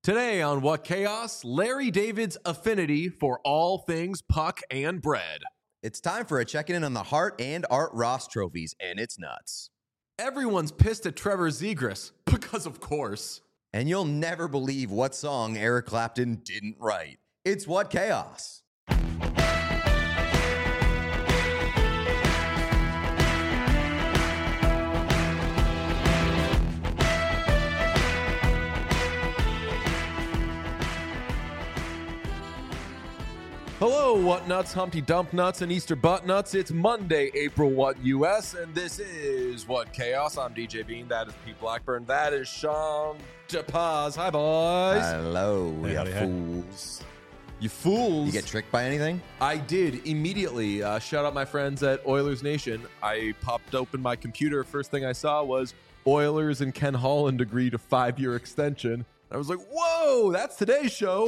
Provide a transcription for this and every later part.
Today on What Chaos, Larry David's affinity for all things puck and bread. It's time for a check-in on the Hart and Art Ross trophies, and it's nuts. Everyone's pissed at Trevor Zegras, because of course. And you'll never believe what song Eric Clapton didn't write. It's What Chaos. Hello, What Nuts, Humpty Dump Nuts, and Easter Butt Nuts. It's Monday, April What US, and this is What Chaos. I'm DJ Bean. That is Pete Blackburn. That is Sean DePaz. Hi, boys. Hello, Hey, you howdy, hey. fools. You fools. You get tricked by anything? I did immediately. Shout out my friends at Oilers Nation. I popped open my computer. First thing I saw was Oilers and Ken Holland agreed a 5-year extension. I was like, whoa, that's today's show.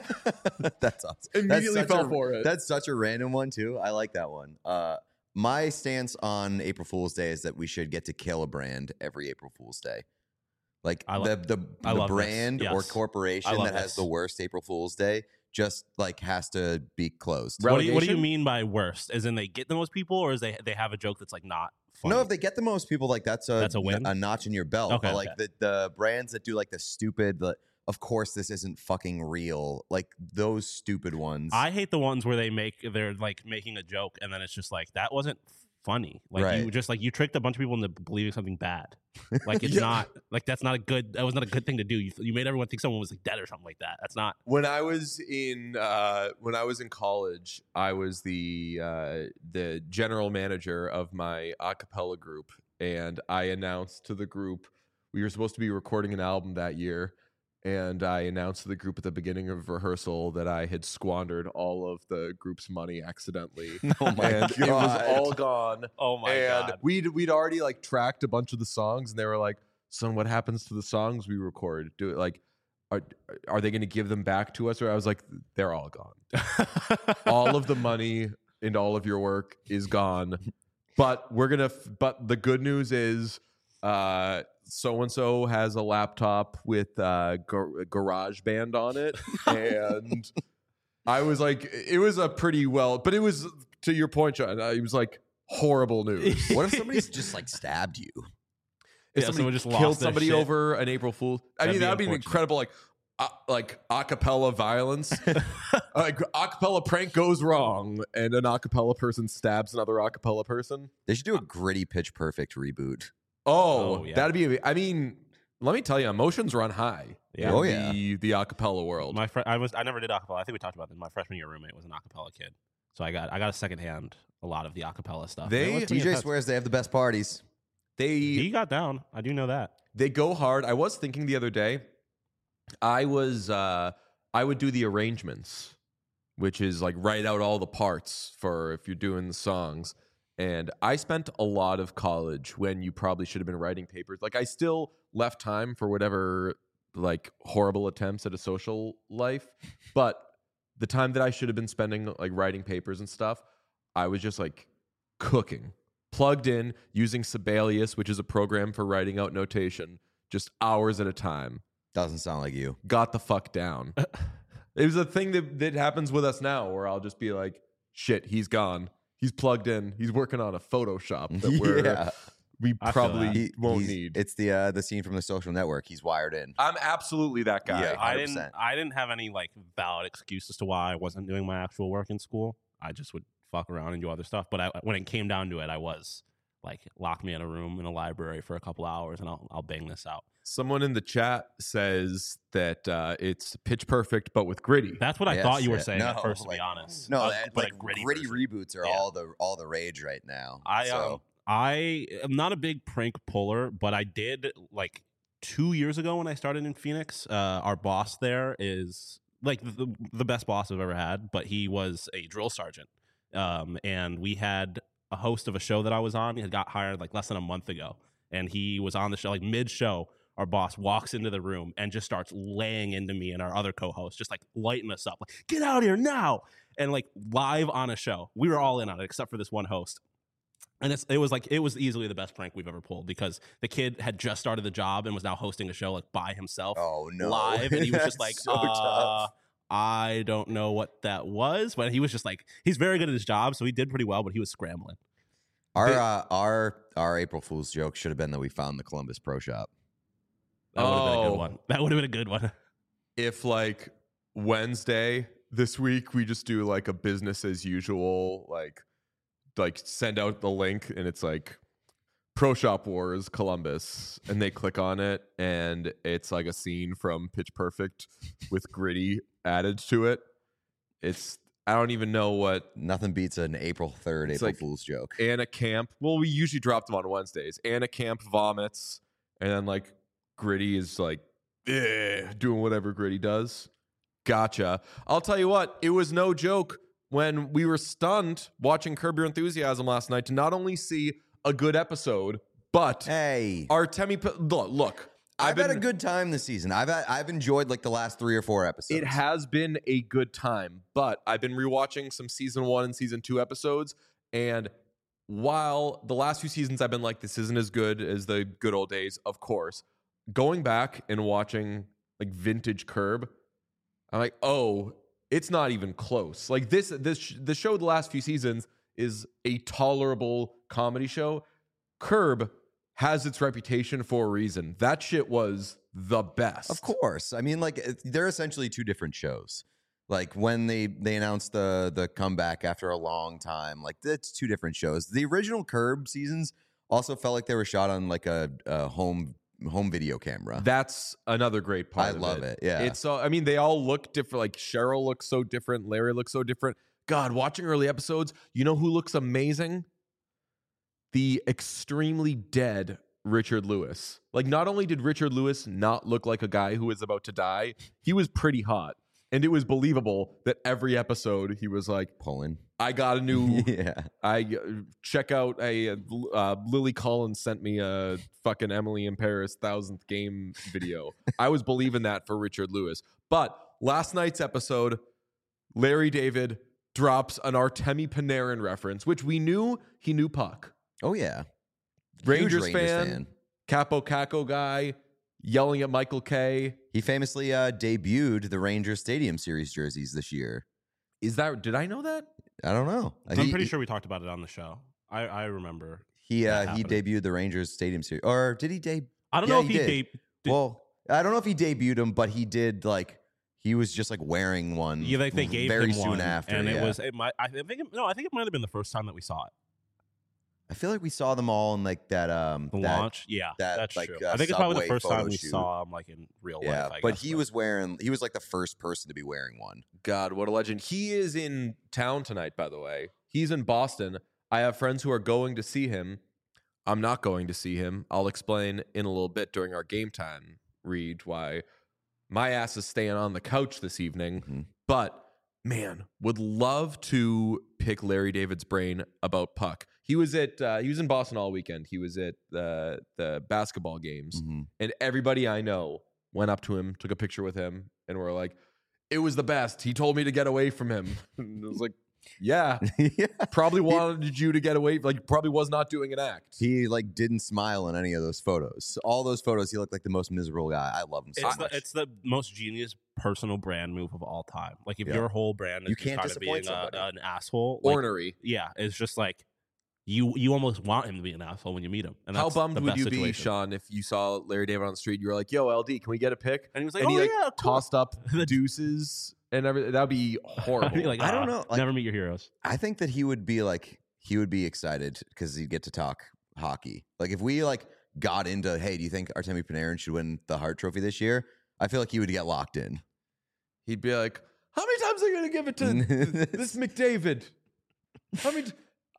That's awesome. Immediately That's such fell a- for it. That's such a random one, too. I like that one. My stance on April Fool's Day is that we should get to kill a brand every April Fool's Day. Like I the love brand this. or Yes. corporation I love that has this. the worst April Fool's Day just like has to be closed. Right. What do you Relegation? mean by worst? As in they get the most people, or is they have a joke that's like not funny? No, if they get the most people, like that's a win? a notch in your belt. Okay, But like the brands that do like the stupid, of course this isn't fucking real. Like those stupid ones. I hate the ones where they're like making a joke and then it's just like that wasn't funny. Like Right. you tricked a bunch of people into believing something bad. Like it's Yeah. not like that was not a good thing to do. You made everyone think someone was like dead or something like that. That's not. When I was in college, I was the general manager of my a cappella group, and I announced to the group we were supposed to be recording an album that year, and I announced to the group at the beginning of rehearsal that I had squandered all of the group's money accidentally. Oh my and God. it was all gone. Oh my and god. we'd already like tracked a bunch of the songs, and they were like, "Son, what happens to the songs we record? Do it like." Are they going to give them back to us? Or I was like, they're all gone. All of the money and all of your work is gone. But but the good news is so and so has a laptop with GarageBand on it. And I was like, it was a pretty well, but it was, to your point, John, it was like horrible news. What if somebody's just like stabbed you? If Yeah, somebody someone just killed lost their somebody shit. over an April Fool, I That'd mean, be that would be an unfortunate. incredible, like acapella violence. Like acapella prank goes wrong, and an acapella person stabs another acapella person. They should do a gritty Pitch Perfect reboot. Oh, Oh, yeah. that'd be. I mean, let me tell you, emotions run high. Yeah. in Oh, yeah. the acapella world. I never did acapella. I think we talked about this. My freshman year roommate was an acapella kid, so I got a secondhand a lot of the acapella stuff. They- And it was DJ intense. swears they have the best parties. He got down. I do know that. They go hard. I was thinking the other day, I would do the arrangements, which is like write out all the parts for if you're doing the songs. And I spent a lot of college when you probably should have been writing papers. Like I still left time for whatever like horrible attempts at a social life, but the time that I should have been spending like writing papers and stuff, I was just like cooking, plugged in, using Sibelius, which is a program for writing out notation, just hours at a time. Doesn't sound like you. Got the fuck down. It was a thing that happens with us now where I'll just be like, shit, he's gone. He's plugged in. He's working on a Photoshop that we I feel probably that. won't He's- need. It's the scene from The Social Network. He's wired in. I'm absolutely that guy. Yeah. I 100%. didn't have any like valid excuse as to why I wasn't doing my actual work in school. I just would fuck around and do other stuff. But when it came down to it, I was like, lock me in a room in a library for a couple hours and I'll bang this out. Someone in the chat says that it's Pitch Perfect, but with gritty. That's what I Yes, thought you were yeah. saying No, at first, to like- be honest. No, But like a gritty version. reboots are Yeah. all the rage right now. I am not a big prank puller, but I did like 2 years ago when I started in Phoenix. Our boss there is like the best boss I've ever had, but he was a drill sergeant. And we had a host of a show that I was on. He had got hired like less than a month ago, and he was on the show like mid-show. Our boss walks into the room and just starts laying into me and our other co-host, just like lighting us up, like get out of here now, and like live on a show. We were all in on it except for this one host. And it was easily the best prank we've ever pulled because the kid had just started the job and was now hosting a show like by himself Oh no, live, and he was just That's like, so tough. I don't know what that was, but he was just like, he's very good at his job, so he did pretty well, but he was scrambling. Our April Fool's joke should have been that we found the Columbus Pro Shop. That would have been a good one. That would have been a good one. If like Wednesday this week we just do like a business as usual, like send out the link and it's like Pro Shop Wars Columbus, and they click on it and it's like a scene from Pitch Perfect with Gritty added to it. I don't even know what. Nothing beats an April 3rd April Fool's joke. Anna Camp. Well, we usually drop them on Wednesdays. Anna Camp vomits, and then like Gritty is like doing whatever Gritty does. Gotcha. I'll tell you what, it was no joke when we were stunned watching Curb Your Enthusiasm last night to not only see a good episode, but hey, Artemi. Look. I've had a good time this season. I've enjoyed like the last 3 or 4 episodes. It has been a good time, but I've been rewatching some season 1 and season 2 episodes, and while the last few seasons I've been like, this isn't as good as the good old days, of course, going back and watching like vintage Curb, I'm like, oh, it's not even close. Like the show the last few seasons is a tolerable comedy show. Curb has its reputation for a reason. That shit was the best. Of course. I mean, like, they're essentially 2 different shows. Like, when they announced the comeback after a long time, like, that's 2 different shows. The original Curb seasons also felt like they were shot on, like, a home video camera. That's another great part of it. I love it, yeah. It's I mean, they all look different. Like, Cheryl looks so different. Larry looks so different. God, watching early episodes, you know who looks amazing? The extremely dead Richard Lewis. Like, not only did Richard Lewis not look like a guy who was about to die, he was pretty hot. And it was believable that every episode he was like, pulling. I got a new, yeah. Check out Lily Collins sent me a fucking Emily in Paris 1000th game video. I was believing that for Richard Lewis. But last night's episode, Larry David drops an Artemi Panarin reference, which we knew he knew puck. Oh, yeah. Rangers fan, Capo Caco guy, yelling at Michael Kay. He famously debuted the Rangers Stadium Series jerseys this year. Did I know that? I don't know. I'm pretty sure we talked about it on the show. I remember. He debuted the Rangers Stadium Series. Or did he debut? I don't know if he debuted. Well, I don't know if he debuted them, but he did, like, he was just like wearing one. Yeah, like they gave very him soon one, after. And I think it might have been the first time that we saw it. I feel like we saw them all in like that the launch. Yeah, that's like, true. I think it's probably the first time we shoot. saw him like in real life. Yeah, but he was like the first person to be wearing one. God, what a legend. He is in town tonight, by the way. He's in Boston. I have friends who are going to see him. I'm not going to see him. I'll explain in a little bit during our game time read why my ass is staying on the couch this evening. Mm-hmm. But man, would love to pick Larry David's brain about puck. He was in Boston all weekend. He was at the basketball games, and everybody I know went up to him, took a picture with him, and were like, "It was the best. He told me to get away from him." And I was like, "Yeah, probably wanted you to get away. Like, probably was not doing an act." He like didn't smile in any of those photos. All those photos, he looked like the most miserable guy. I love him so much. It's the most genius personal brand move of all time. Like, if Yeah. your whole brand is You can't just kind of being disappoint somebody. an asshole, like, Ornery. yeah, it's just like you almost want him to be an asshole when you meet him. And How that's bummed the would best you be, situation. Sean, if you saw Larry David on the street? You were like, "Yo, LD, can we get a pic?" And he was like, And "Oh he yeah, cool." tossed up the deuces and everything. That'd be horrible. I'd be like, I don't know, like- never meet your heroes. I think that he would be excited because he'd get to talk hockey. Like if we like got into, hey, do you think Artemi Panarin should win the Hart Trophy this year? I feel like he would get locked in. He'd be like, "How many times are they going to give it to this McDavid? How many?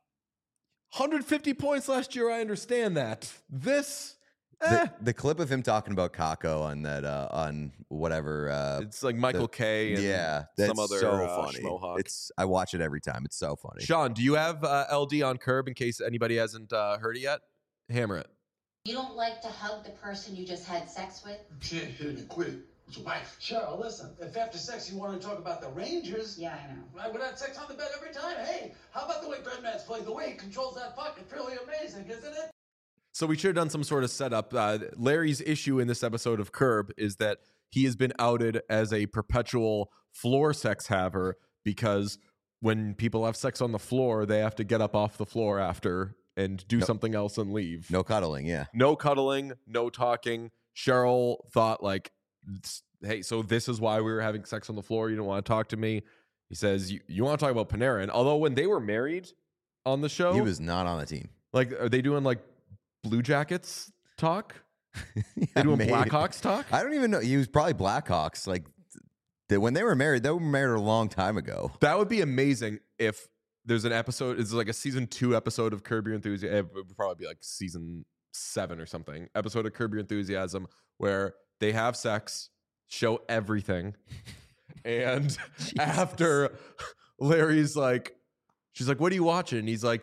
150 points last year. I understand that. This, The clip of him talking about Kako on that on whatever. it's like Michael Kay and Yeah, that's some other so funny. schmohawk. I watch it every time. It's so funny. Sean, do you have LD on Curb in case anybody hasn't heard it yet? Hammer it. You don't like to hug the person you just had sex with? You can't hit me quick. Wife, Cheryl, listen. If after sex you want to talk about the Rangers, Yeah, I know. I would have sex on the bed every time. Hey, how about the way Breadman's playing? The way he controls that puck, it's really amazing, isn't it? So we should have done some sort of setup. Larry's issue in this episode of Curb is that he has been outed as a perpetual floor sex haver because when people have sex on the floor, they have to get up off the floor after and do something else and leave. No cuddling, yeah. No cuddling, no talking. Cheryl thought like, hey, so this is why we were having sex on the floor. You don't want to talk to me. He says, you want to talk about Panarin. Although when they were married on the show, He was not on the team. like, are they doing like Blue Jackets talk? Yeah, They doing maybe. Blackhawks talk? I don't even know. He was probably Blackhawks. Like when they were married a long time ago. That would be amazing if there's an episode. It's like a season 2 episode of Curb Your Enthusiasm. It would probably be like season 7 or something. Episode of Curb Your Enthusiasm where they have sex, show everything, and after Larry's like, she's like, "What are you watching?" And he's like,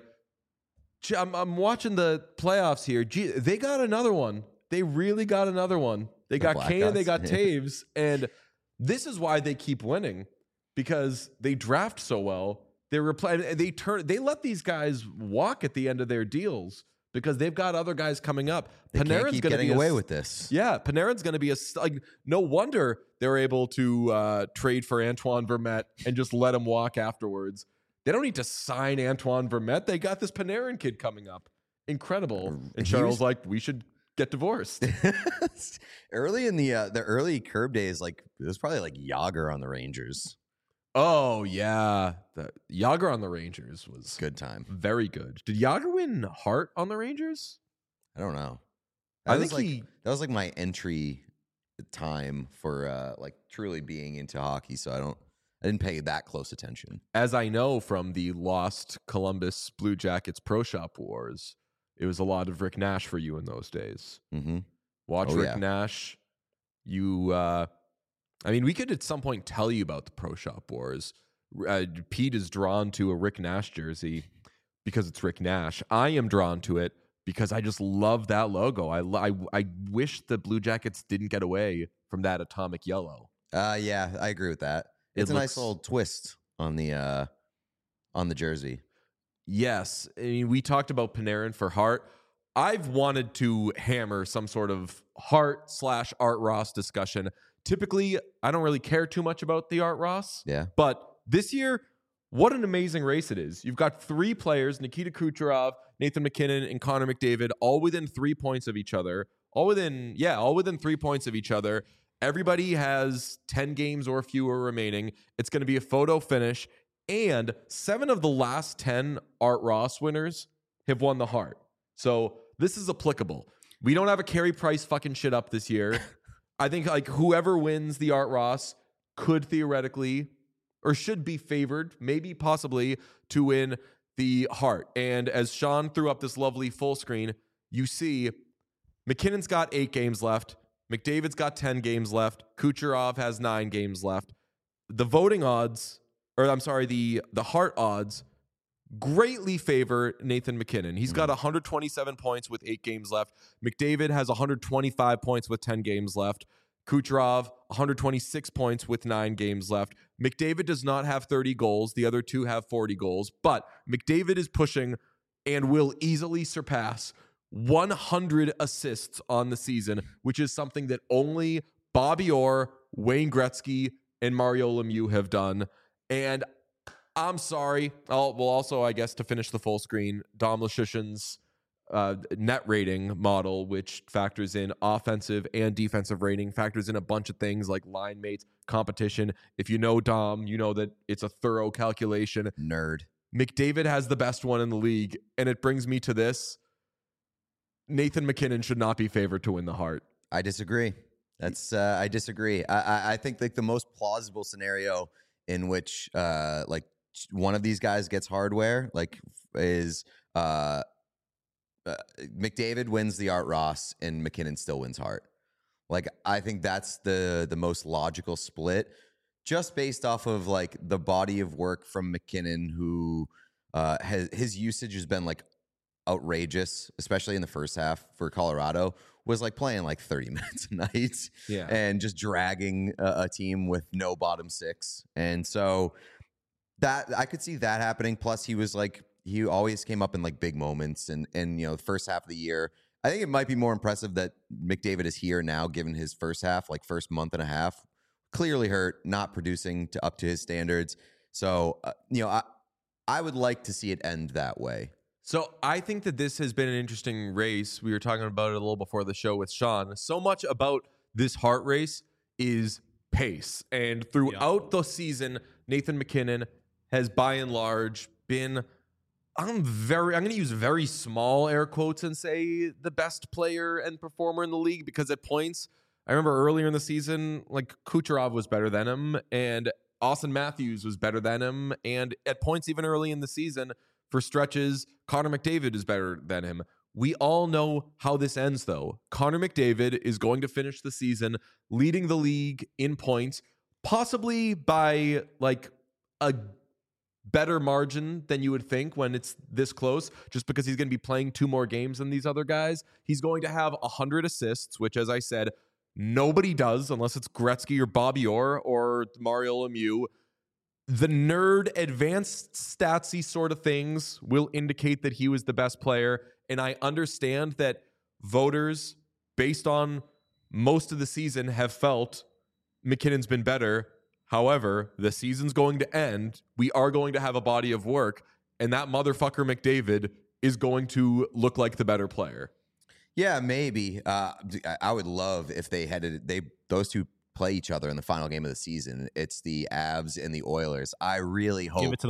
I'm watching the playoffs here. Gee, they got another one. They really got another one. They The got Kane and they got Blackhawks? Taves. And this is why they keep winning, because they draft so well. They let these guys walk at the end of their deals because they've got other guys coming up. They can't Panarin's keep gonna getting be away with this. Yeah, Panarin's going to be like, no wonder they're able to trade for Antoine Vermette and just let him walk afterwards. They don't need to sign Antoine Vermette. They got this Panarin kid coming up. Incredible. And He Cheryl's was- like, we should get divorced. Early in the early Curb days, like it was probably like Yager on the Rangers. Oh, yeah. The Yager on the Rangers was Good time. very good. Did Yager win Hart on the Rangers? I don't know. I That think was that was like my entry time for like truly being into hockey. So I didn't pay that close attention. As I know from the lost Columbus Blue Jackets Pro Shop Wars, it was a lot of Rick Nash for you in those days. Mm-hmm. Watch Oh, Rick yeah. Nash. I mean, we could at some point tell you about the Pro Shop Wars. Pete is drawn to a Rick Nash jersey because it's Rick Nash. I am drawn to it because I just love that logo. I wish the Blue Jackets didn't get away from that atomic yellow. Yeah, I agree with that. It It's a looks- nice little twist on the jersey. Yes. I mean, we talked about Panarin for Hart. I've wanted to hammer some sort of Hart/Art Ross discussion. Typically, I don't really care too much about the Art Ross. Yeah. But this year, what an amazing race it is. You've got 3 players, Nikita Kucherov, Nathan MacKinnon, and Connor McDavid, all within 3 points of each other. All within 3 points of each other. Everybody has 10 games or fewer remaining. It's going to be a photo finish. And 7 of the last 10 Art Ross winners have won the Hart. So this is applicable. We don't have a Carey Price fucking shit up this year. I think like whoever wins the Art Ross could theoretically or should be favored, maybe possibly, to win the Hart. And as Sean threw up this lovely full screen, you see McKinnon's got 8 games left. McDavid's got 10 games left. Kucherov has 9 games left. The voting odds, or I'm sorry, the Hart odds greatly favor Nathan MacKinnon. He's got 127 points with 8 games left. McDavid has 125 points with 10 games left. Kucherov, 126 points with 9 games left. McDavid does not have 30 goals. The other 2 have 40 goals. But McDavid is pushing and will easily surpass 100 assists on the season, which is something that only Bobby Orr, Wayne Gretzky, and Mario Lemieux have done. And I'm sorry. Also, I guess, to finish the full screen, Dom Luszczyszyn's net rating model, which factors in offensive and defensive rating, factors in a bunch of things like line mates, competition. If you know Dom, you know that it's a thorough calculation. Nerd. McDavid has the best one in the league, and it brings me to this. Nathan MacKinnon should not be favored to win the Hart. I disagree. I disagree. I think like the most plausible scenario in which like one of these guys gets hardware like is McDavid wins the Art Ross and McKinnon still wins Hart. Like I think that's the most logical split, just based off of like the body of work from McKinnon, who his usage has been like outrageous, especially in the first half for Colorado, was like playing like 30 minutes a night and just dragging a team with no bottom six. And so that I could see that happening. Plus he was like, he always came up in like big moments and the first half of the year. I think it might be more impressive that McDavid is here now, given his first half, like first month and a half, clearly hurt, not producing up to his standards. So, I would like to see it end that way. So I think that this has been an interesting race. We were talking about it a little before the show with Sean. So much about this Hart race is pace. And throughout the season, Nathan MacKinnon has by and large been, I'm going to use very small air quotes and say the best player and performer in the league, because at points, I remember earlier in the season, like Kucherov was better than him and Austin Matthews was better than him. And at points even early in the season, for stretches, Connor McDavid is better than him. We all know how this ends, though. Connor McDavid is going to finish the season leading the league in points, possibly by like a better margin than you would think when it's this close, just because he's going to be playing 2 more games than these other guys. He's going to have 100 assists, which, as I said, nobody does unless it's Gretzky or Bobby Orr or Mario Lemieux. The nerd advanced statsy sort of things will indicate that he was the best player. And I understand that voters, based on most of the season, have felt McKinnon's been better. However, the season's going to end. We are going to have a body of work. And that motherfucker McDavid is going to look like the better player. Yeah, maybe. I would love if those two play each other in the final game of the season. It's the Avs and the Oilers. I really hope Give it to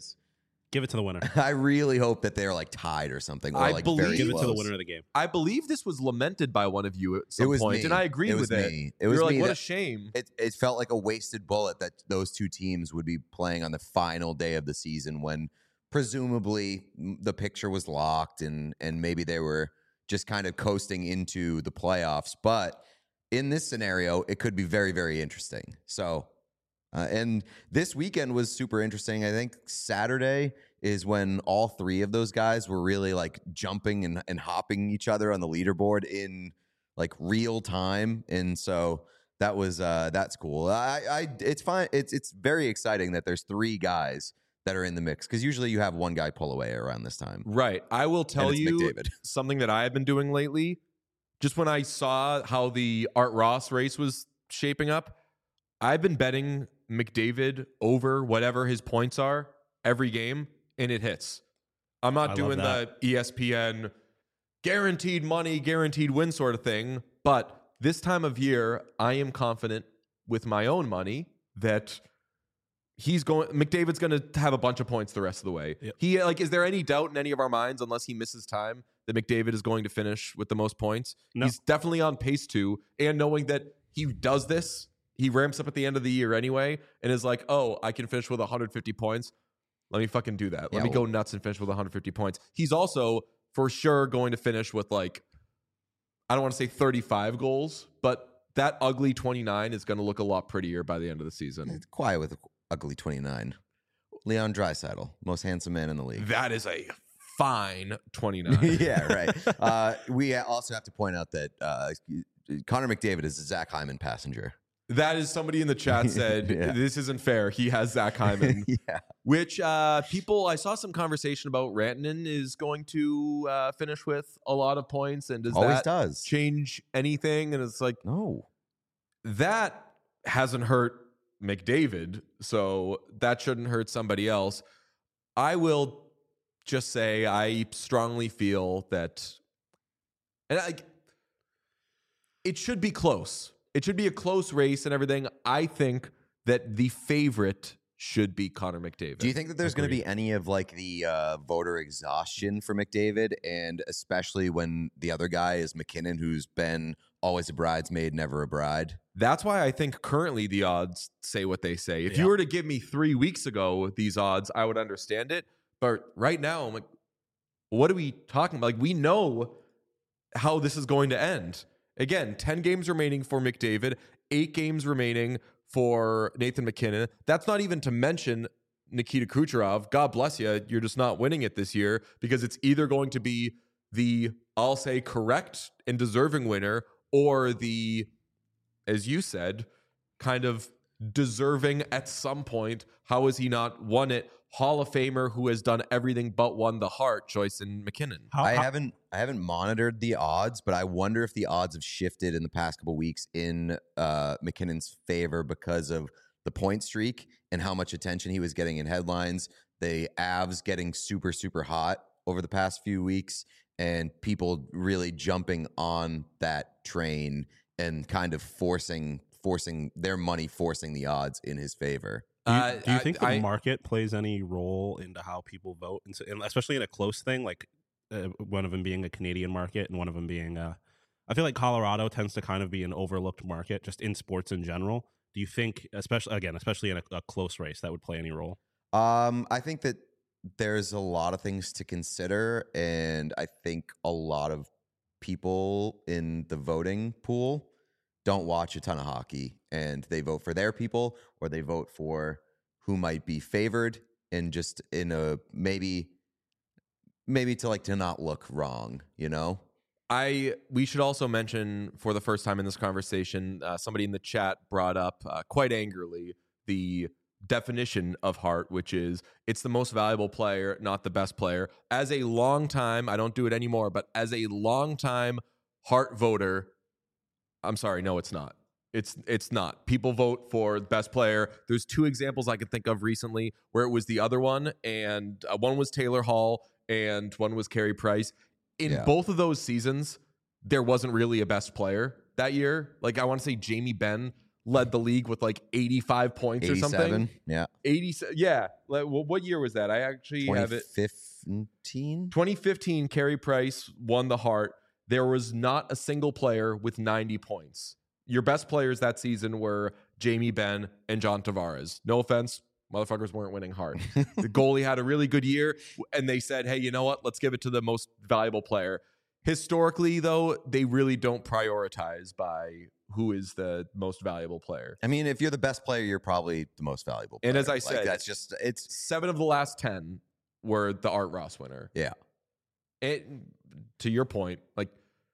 the winner. I really hope that they're like tied or something. Or Give it to the winner of the game. I believe this was lamented by one of you at some point, me. and I agree with it. It was like, me. what a shame. It felt like a wasted bullet that those two teams would be playing on the final day of the season when presumably the picture was locked and maybe they were just kind of coasting into the playoffs. But in this scenario, it could be very, very interesting. So, and this weekend was super interesting. I think Saturday is when all 3 of those guys were really like jumping and hopping each other on the leaderboard in like real time. And so that was, that's cool. It's fine. It's very exciting that there's 3 guys that are in the mix, because usually you have one guy pull away around this time. Right. I will tell you McDavid. something that I have been doing lately. Just when I saw how the Art Ross race was shaping up, I've been betting McDavid over whatever his points are every game, and it hits. I'm not doing the ESPN guaranteed money, guaranteed win sort of thing, but this time of year, I am confident with my own money that McDavid's going to have a bunch of points the rest of the way. Yep. Is there any doubt in any of our minds, unless he misses time, that McDavid is going to finish with the most points? No. He's definitely on pace to, and knowing that he does this, he ramps up at the end of the year anyway, and is like, oh, I can finish with 150 points. Let me fucking do that. Let me go nuts and finish with 150 points. He's also for sure going to finish with I don't want to say 35 goals, but that ugly 29 is going to look a lot prettier by the end of the season. It's quiet with ugly 29. Leon Draisaitl, most handsome man in the league. That is a fine 29. Yeah, right. We also have to point out that Connor McDavid is a Zach Hyman passenger. That is, somebody in the chat said, This isn't fair. He has Zach Hyman. Yeah. Which people, I saw some conversation about Rantanen is going to finish with a lot of points. And does change anything? And it's like, no. That hasn't hurt McDavid, so that shouldn't hurt somebody else. I will just say I strongly feel that, it should be close. It should be a close race and everything. I think that the favorite should be Connor McDavid. Do you think that there's going to be any of the voter exhaustion for McDavid, and especially when the other guy is McKinnon, who's been always a bridesmaid, never a bride? That's why I think currently the odds say what they say. If you were to give me 3 weeks ago these odds, I would understand it. But right now, I'm like, what are we talking about? We know how this is going to end. Again, 10 games remaining for McDavid, 8 games remaining for Nathan MacKinnon. That's not even to mention Nikita Kucherov, God bless you, you're just not winning it this year, because it's either going to be the, I'll say, correct and deserving winner, or the, as you said, kind of deserving at some point. How has he not won it? Hall of Famer who has done everything but won the Hart, Joyson McKinnon. I haven't monitored the odds, but I wonder if the odds have shifted in the past couple weeks in McKinnon's favor because of the point streak and how much attention he was getting in headlines. The Avs getting super, super hot over the past few weeks, and people really jumping on that train and kind of forcing their money, forcing the odds in his favor. Do you think the market plays any role into how people vote, and especially in a close thing, like one of them being a Canadian market and one of them being I feel like Colorado tends to kind of be an overlooked market just in sports in general. Do you think, especially in a close race, that would play any role? I think that there's a lot of things to consider, and I think a lot of people in the voting pool don't watch a ton of hockey, and they vote for their people, or they vote for who might be favored, and just in a maybe to not look wrong, you know? We should also mention, for the first time in this conversation, somebody in the chat brought up quite angrily the definition of Hart, which is it's the most valuable player, not the best player. As a long time, I don't do it anymore, but as a long time Hart voter, I'm sorry, no, it's not. It's not. People vote for best player. There's two examples I could think of recently where it was the other one, and one was Taylor Hall and one was Carey Price. In both of those seasons, there wasn't really a best player that year. Like, I want to say Jamie Benn led the league with like 85 points or something. Yeah. 87. Yeah. What year was that? I actually have it. 2015, Carey Price won the Hart. There was not a single player with 90 points. Your best players that season were Jamie Benn and John Tavares. No offense, motherfuckers weren't winning Hart. The goalie had a really good year, and they said, hey, you know what? Let's give it to the most valuable player. Historically, though, they really don't prioritize by who is the most valuable player. I mean, if you're the best player, you're probably the most valuable player. And as I said, that's just, it's 7 of the last 10 were the Art Ross winner. Yeah. To your point, like,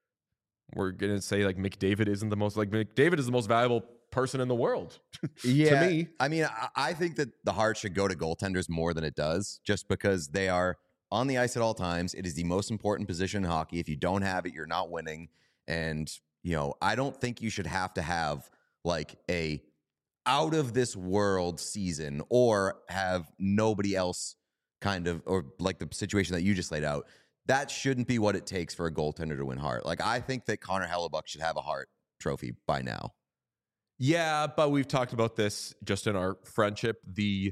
we're going to say like McDavid isn't the most, like McDavid is the most valuable person in the world. Yeah. To me. I mean, I think that the Hart should go to goaltenders more than it does, just because they are on the ice at all times. It is the most important position in hockey. If you don't have it, you're not winning. And, you know, I don't think you should have to have like a out of this world season or have nobody else kind of, or like the situation that you just laid out. That shouldn't be what it takes for a goaltender to win Hart. Like, I think that Connor Hellebuck should have a Hart trophy by now. Yeah, but we've talked about this just in our friendship.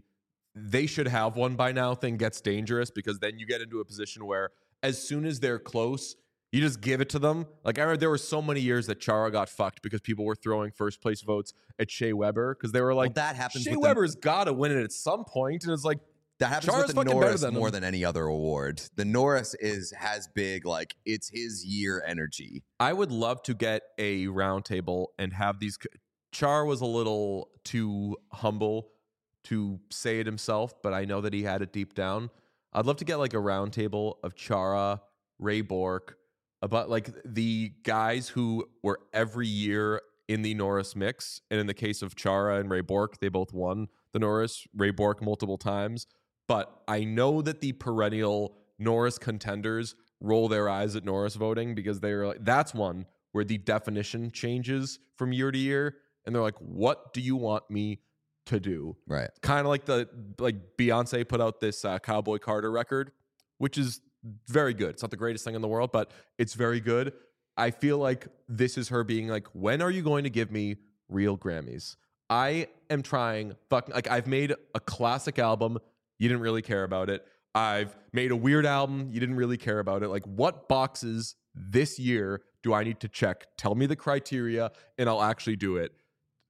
They should have one by now thing gets dangerous, because then you get into a position where as soon as they're close, you just give it to them. Like, I remember there were so many years that Chara got fucked because people were throwing first place votes at Shea Weber because they were like, well, that happens. Shea Weber's got to win it at some point. And it's like, that happens Chara's with the Norris more him. than any other award. The Norris has big, like, it's his year energy. I would love to get a roundtable and have these. Char was a little too humble to say it himself, but I know that he had it deep down. I'd love to get like a roundtable of Chara, Ray Bourque, about like the guys who were every year in the Norris mix. And in the case of Chara and Ray Bourque, they both won the Norris. Ray Bourque multiple times. But I know that the perennial Norris contenders roll their eyes at Norris voting, because they're like, that's one where the definition changes from year to year. And they're like, what do you want me to do? Right. Kind of like Beyonce put out this Cowboy Carter record, which is very good. It's not the greatest thing in the world, but it's very good. I feel like this is her being like, when are you going to give me real Grammys? I am trying, I've made a classic album. You didn't really care about it. I've made a weird album. You didn't really care about it. Like, what boxes this year do I need to check? Tell me the criteria and I'll actually do it.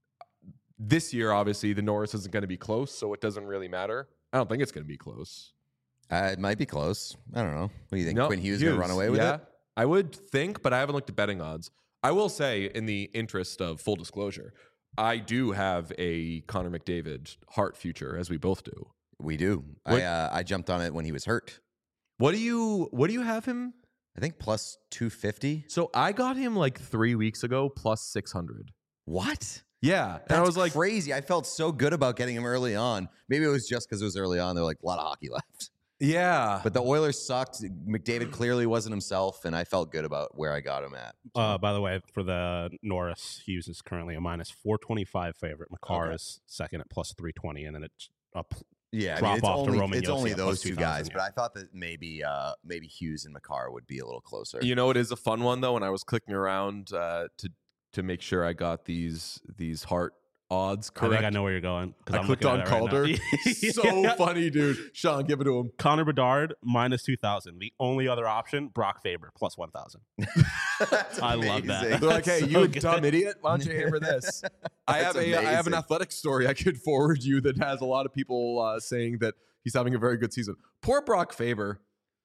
This year, obviously, the Norris isn't going to be close, so it doesn't really matter. I don't think it's going to be close. It might be close. I don't know. What do you think? Quinn Hughes going to run away with it? I would think, but I haven't looked at betting odds. I will say, in the interest of full disclosure, I do have a Connor McDavid Hart future, as we both do. We do. What- I jumped on it when he was hurt. What do you have him? I think plus 250. So I got him like 3 weeks ago plus 600. What? Yeah, and That's I was like, crazy. I felt so good about getting him early on. Maybe it was just because it was early on. There were like a lot of hockey left. yeah, But the Oilers sucked. McDavid clearly wasn't himself, and I felt good about where I got him at. By the way, for the Norris, Hughes is currently a minus 425 favorite. McCarr Okay. is second at plus 320, and then it's up. Yeah, Drop it's off to only, Roman it's Josi only at those plus two 2,000, guys. yeah. But I thought that maybe Hughes and McCarr would be a little closer. you know, it is a fun one though. When I was clicking around to make sure I got these Hart odds I correct, think I know where you're going. 'cause I I'm clicked looking on at it right now. Calder. So Yeah. funny, dude. Sean, give it to him. Connor Bedard minus 2,000. The only other option, Brock Faber plus 1,000. That's I love that. amazing. They're like, hey, So you good. dumb idiot. Why don't you hammer this? I have That's I have an amazing. athletic story I could forward you that has a lot of people saying that he's having a very good season. Poor Brock Faber.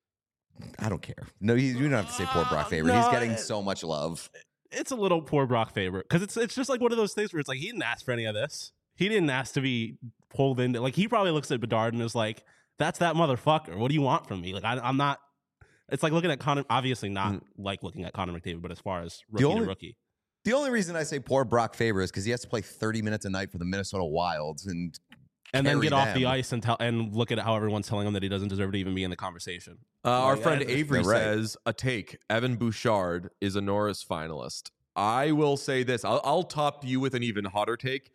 I don't care. No, you don't have to say poor Brock Faber. No, He's getting so much love. It's a little poor Brock Faber because it's just like one of those things where it's like he didn't ask for any of this. He didn't ask to be pulled into. Like he probably looks at Bedard and is like, "That's that motherfucker. What do you want from me?" Like I'm not. It's like looking at Connor. Obviously not like looking at Connor McDavid, but as far as rookie only- to rookie, The only reason I say poor Brock Faber is because he has to play 30 minutes a night for the Minnesota Wilds and and then carry get off the them. ice and look at how everyone's telling him that he doesn't deserve to even be in the conversation. Our Like, friend I- Avery You're right. says a take. Evan Bouchard is a Norris finalist. I will say this. I'll top you with an even hotter take.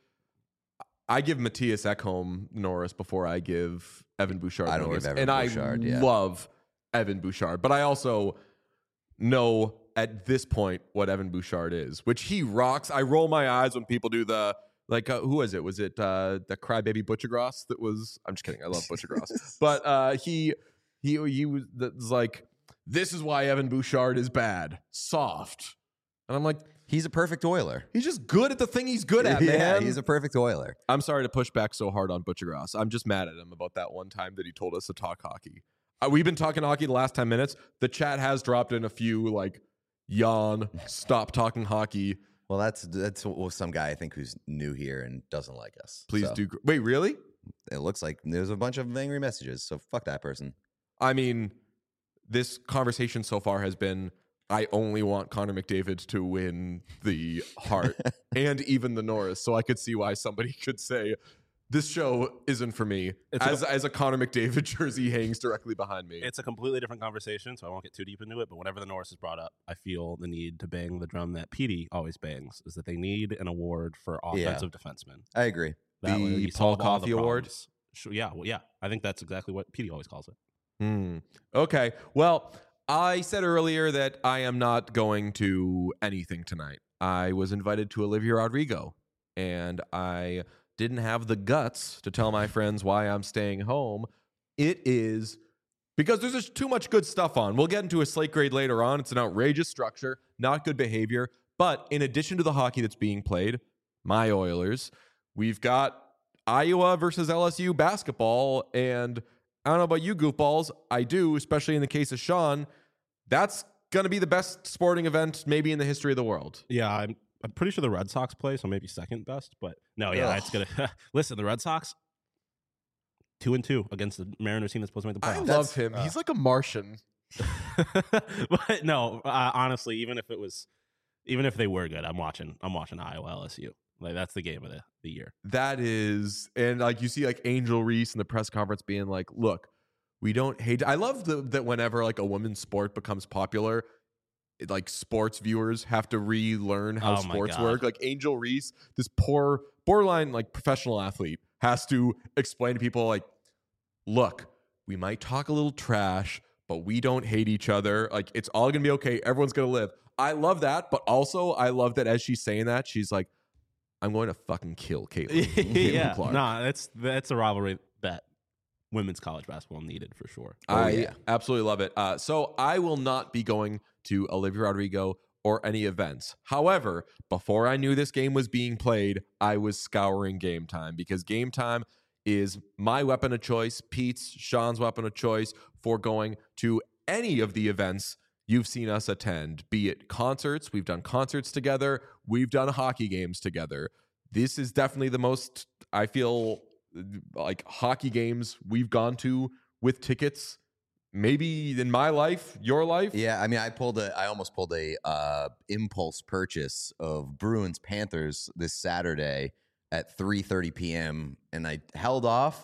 I give Matthias Ekholm Norris before I give Evan Bouchard I don't Norris. give Evan and Bouchard, I yeah. love Evan Bouchard, but I also know at this point what Evan Bouchard is, which he rocks. I roll my eyes when people do the who was it? Was it the crybaby Butchergross that was? I'm just kidding. I love Butchergross, but he was like, this is why Evan Bouchard is bad, soft, and I'm like, he's a perfect Oiler. he's just good at the thing he's good at, Yeah, man. he's a perfect Oiler. I'm sorry to push back so hard on Butchergross. I'm just mad at him about that one time that he told us to talk hockey. We've been talking hockey the last 10 minutes. The chat has dropped in a few like yawn, stop talking hockey. Well, that's some guy I think who's new here and doesn't like us. Please So, do. Wait, really? It looks like there's a bunch of angry messages. So fuck that person. I mean, this conversation so far has been I only want Connor McDavid to win the Hart and even the Norris. So I could see why somebody could say this show isn't for me. As a Connor McDavid jersey hangs directly behind me. It's a completely different conversation, so I won't get too deep into it. But whenever the Norris is brought up, I feel the need to bang the drum that Petey always bangs: is that they need an award for offensive defensemen. I agree. That way The you Paul solve all the Coffey Award? problems. Yeah, well, yeah. I think that's exactly what Petey always calls it. Okay. Well, I said earlier that I am not going to anything tonight. I was invited to Olivia Rodrigo, and I didn't have the guts to tell my friends why I'm staying home. It is because there's just too much good stuff on. We'll get into a slate grade later on. It's an outrageous structure, not good behavior. But in addition to the hockey that's being played, my Oilers, we've got Iowa versus LSU basketball. And I don't know about you goofballs. I do, especially in the case of Sean. That's going to be the best sporting event maybe in the history of the world. Yeah, I'm pretty sure the Red Sox play, so maybe second best. But no, yeah, that's gonna listen. The Red Sox 2-2 against the Mariners team that's supposed to make the I playoffs. love him. He's like a Martian. But no, honestly, even if they were good, I'm watching Iowa LSU. Like that's the game of the year. That is, and like you see like Angel Reese in the press conference being like, look, we don't hate. I love that whenever like a women's sport becomes popular, like sports viewers have to relearn how Oh my sports God. work. Like Angel Reese, this poor borderline like professional athlete, has to explain to people like, look, we might talk a little trash, but we don't hate each other. Like it's all gonna be okay. Everyone's gonna live. I love that, but also I love that as she's saying that, she's like, I'm going to fucking kill Caitlin. Caitlin Yeah, Clark. no, that's a rivalry that women's college basketball needed for sure. I absolutely love it. So I will not be going to Olivia Rodrigo or any events. However, before I knew this game was being played, I was scouring Game Time because Game Time is my weapon of choice, Pete's, Sean's weapon of choice for going to any of the events you've seen us attend, be it concerts. We've done concerts together. We've done hockey games together. This is definitely the most, I feel, like hockey games we've gone to with tickets. Maybe in my life, your life. Yeah, I mean, I almost pulled a impulse purchase of Bruins Panthers this Saturday at 3:30 p.m. and I held off.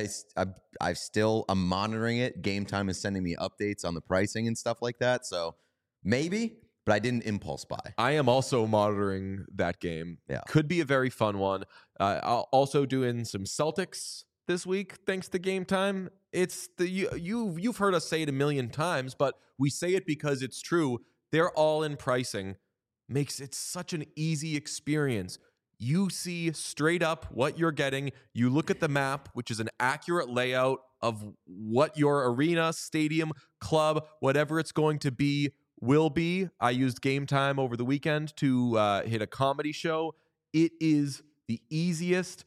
I'm monitoring it. Game Time is sending me updates on the pricing and stuff like that. So maybe, but I didn't impulse buy. I am also monitoring that game. Yeah. Could be a very fun one. I'll also doing some Celtics this week, thanks to Game Time. It's you've heard us say it a million times, but we say it because it's true. They're all in pricing. Makes it such an easy experience. You see straight up what you're getting. You look at the map, which is an accurate layout of what your arena, stadium, club, whatever it's going to be, will be. I used Game Time over the weekend to hit a comedy show. It is the easiest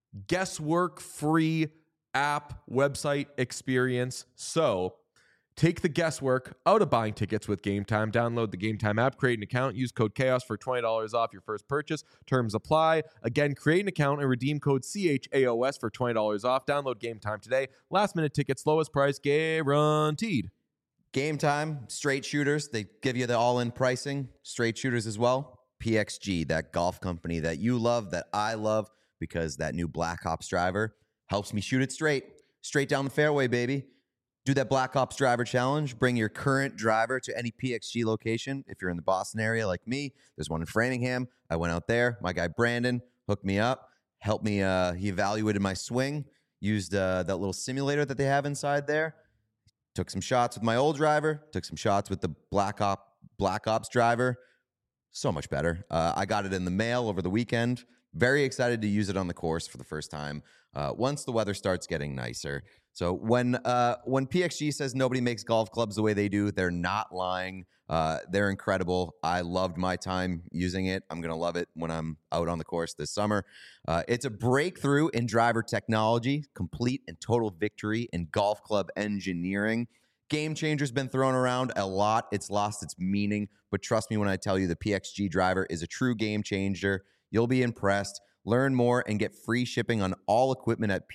guesswork-free app website experience. So take the guesswork out of buying tickets with Game Time. Download the Game Time app, create an account, use code CHAOS for $20 off your first purchase. Terms apply. Again, create an account and redeem code CHAOS for $20 off. Download Game Time today. Last minute tickets, lowest price guaranteed. Game Time, straight shooters. They give you the all-in pricing. Straight shooters as well. PXG, that golf company that you love, that I love, because that new Black Ops driver helps me shoot it straight down the fairway, baby. Do that Black Ops driver challenge. Bring your current driver to any PXG location. If you're in the Boston area like me, there's one in Framingham. I went out there. My guy Brandon hooked me up, helped me. He evaluated my swing, used that little simulator that they have inside there. Took some shots with my old driver, took some shots with the Black Ops driver. So much better. I got it in the mail over the weekend. Very excited to use it on the course for the first time once the weather starts getting nicer. So when PXG says nobody makes golf clubs the way they do, they're not lying. They're incredible. I loved my time using it. I'm going to love it when I'm out on the course this summer. It's a breakthrough in driver technology, complete and total victory in golf club engineering. Game Changer's been thrown around a lot. It's lost its meaning, but trust me when I tell you the PXG driver is a true game changer. You'll be impressed. Learn more and get free shipping on all equipment at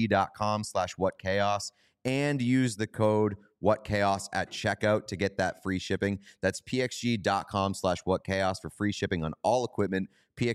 pxg.com/whatchaos and use the code whatchaos at checkout to get that free shipping. That's pxg.com/whatchaos for free shipping on all equipment.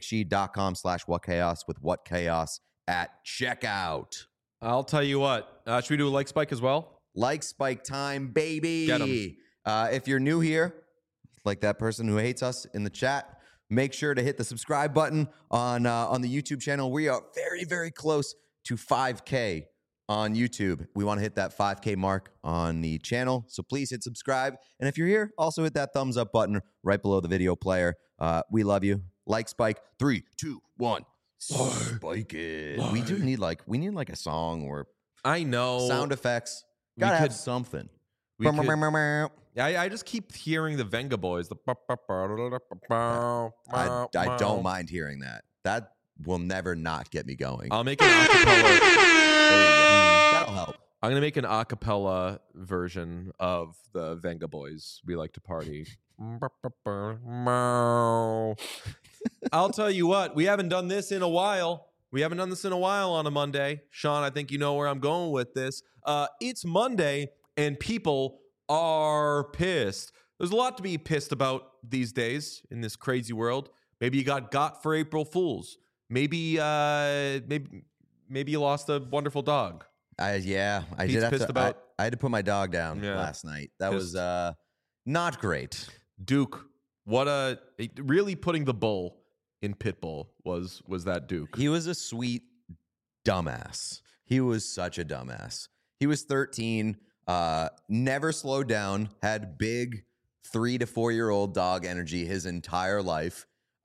pxg.com/whatchaos with whatchaos at checkout. I'll tell you what. Should we do a like spike as well? Like spike time, baby. Get 'em. If you're new here, like that person who hates us in the chat, make sure to hit the subscribe button on the YouTube channel. We are very, very close to 5K on YouTube. We want to hit that 5K mark on the channel, so please hit subscribe. And if you're here, also hit that thumbs up button right below the video player. We love you. Like spike. 3, 2, 1. Spike it. We need like a song or I know. sound effects. We Gotta have could- something. we could- I just keep hearing the Venga Boys. I don't mind hearing that. That will never not get me going. I'll make an acapella. That'll help. I'm gonna make an acapella version of the Venga Boys. We like to party. I'll tell you what. We haven't done this in a while. On a Monday. Sean, I think you know where I'm going with this. It's Monday, and people are pissed. There's a lot to be pissed about these days in this crazy world. Maybe you got for April Fools. Maybe you lost a wonderful dog. I Pete's did have pissed to. about- I had to put my dog down Yeah. last night. That Pissed. was not great. Duke, really putting the bull in Pitbull was that Duke. He was a sweet dumbass. He was such a dumbass. He was 13, never slowed down, had big 3 to 4 year old dog energy his entire life.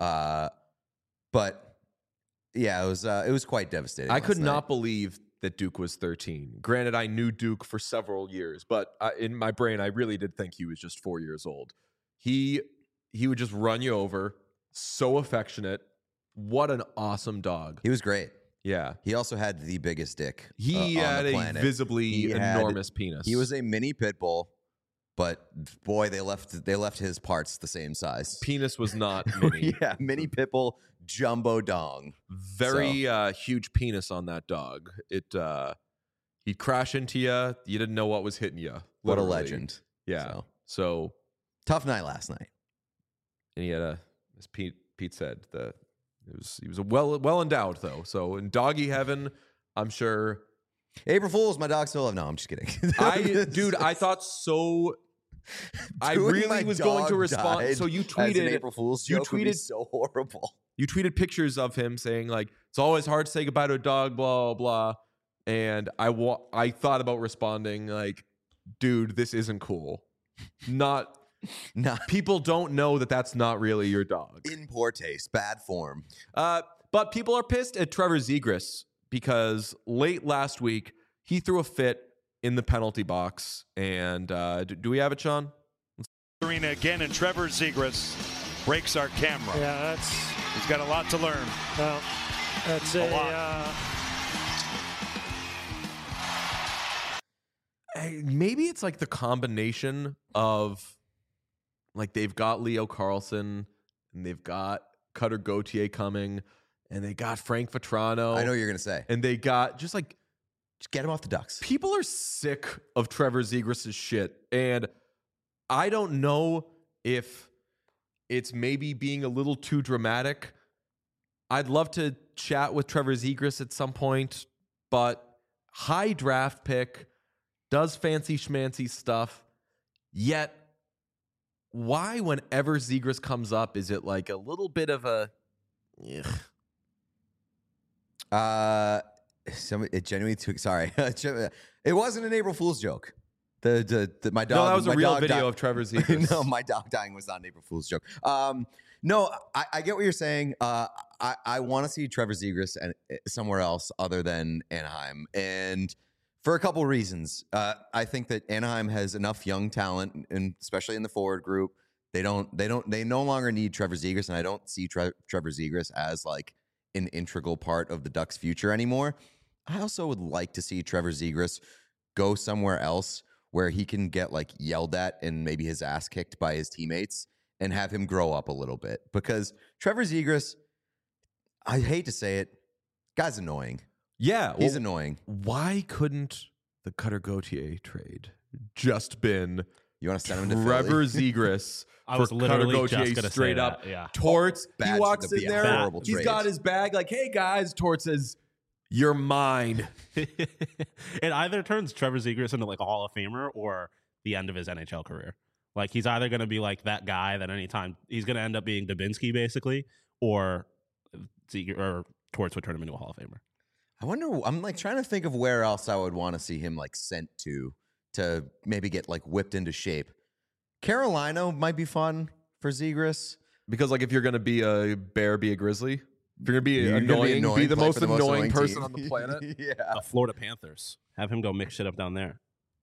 But yeah, it was quite devastating. I could last not night. believe that Duke was 13. Granted, I knew Duke for several years, but in my brain, I really did think he was just 4 years old. He would just run you over. So affectionate. What an awesome dog. He was great. Yeah. He also had the biggest dick. He on had the a planet. visibly He had- enormous penis. He was a mini pit bull. but boy, they left his parts the same size. Penis was not mini. Yeah, mini Pitbull, jumbo dong. Very huge penis on that dog. He'd crash into you. You didn't know what was hitting you. What a literally. legend. Yeah. So Tough night last night. and he had as Pete said, he was a well endowed though. So in doggy heaven, I'm sure. April Fools, my dog still have. No, I'm just kidding. I thought so. I really was going to respond. So you tweeted an April Fool's joke would be so horrible. You tweeted pictures of him saying like it's always hard to say goodbye to a dog, blah blah. And I thought about responding like, dude, this isn't cool. Not. People don't know that that's not really your dog. In poor taste, bad form. But people are pissed at Trevor Zegras because late last week he threw a fit in the penalty box. And do we have it, Sean? Arena again, and Trevor Zegras breaks our camera. Yeah, he's got a lot to learn. Well, that's a lot. Maybe it's like the combination of like they've got Leo Carlson and they've got Cutter Gauthier coming and they got Frank Vetrano. I know what you're going to say. And they got just get him off the Ducks. People are sick of Trevor Zegras' shit. And I don't know if it's maybe being a little too dramatic. I'd love to chat with Trevor Zegras at some point, but high draft pick, does fancy schmancy stuff, yet why whenever Zegras comes up, is it like a little bit of a it genuinely took. Sorry, it wasn't an April Fool's joke. My dog. No, that was a real video of Trevor Zegras. No, my dog dying was not an April Fool's joke. No, I get what you're saying. I want to see Trevor Zegras and somewhere else other than Anaheim, and for a couple reasons. I think that Anaheim has enough young talent, and especially in the forward group. They no longer need Trevor Zegras, and I don't see Trevor Zegras as like an integral part of the Ducks' future anymore. I also would like to see Trevor Zegras go somewhere else where he can get like yelled at and maybe his ass kicked by his teammates and have him grow up a little bit. Because Trevor Zegras, I hate to say it, guy's annoying. Yeah. He's annoying. Why couldn't the Cutter Gauthier trade just been you want to send him to Trevor Philly? Zegras I was for literally Cutter just Gauthier gonna straight say up. that, yeah. Torts, he Bad walks should in be a there. horrible He's trade. got his bag like, hey guys. Torts says, you're mine. It either turns Trevor Zegras into like a Hall of Famer or the end of his NHL career. Like he's either going to be like that guy that anytime he's going to end up being Dubinsky basically, or Torts would turn him into a Hall of Famer. I wonder. I'm like trying to think of where else I would want to see him like sent to maybe get like whipped into shape. Carolina might be fun for Zegras Because like if you're going to be a bear, be a grizzly. If you're going to be annoying, be the play most for the most annoying annoying person team. on the planet. Yeah. The Florida Panthers. Have him go mix shit up down there.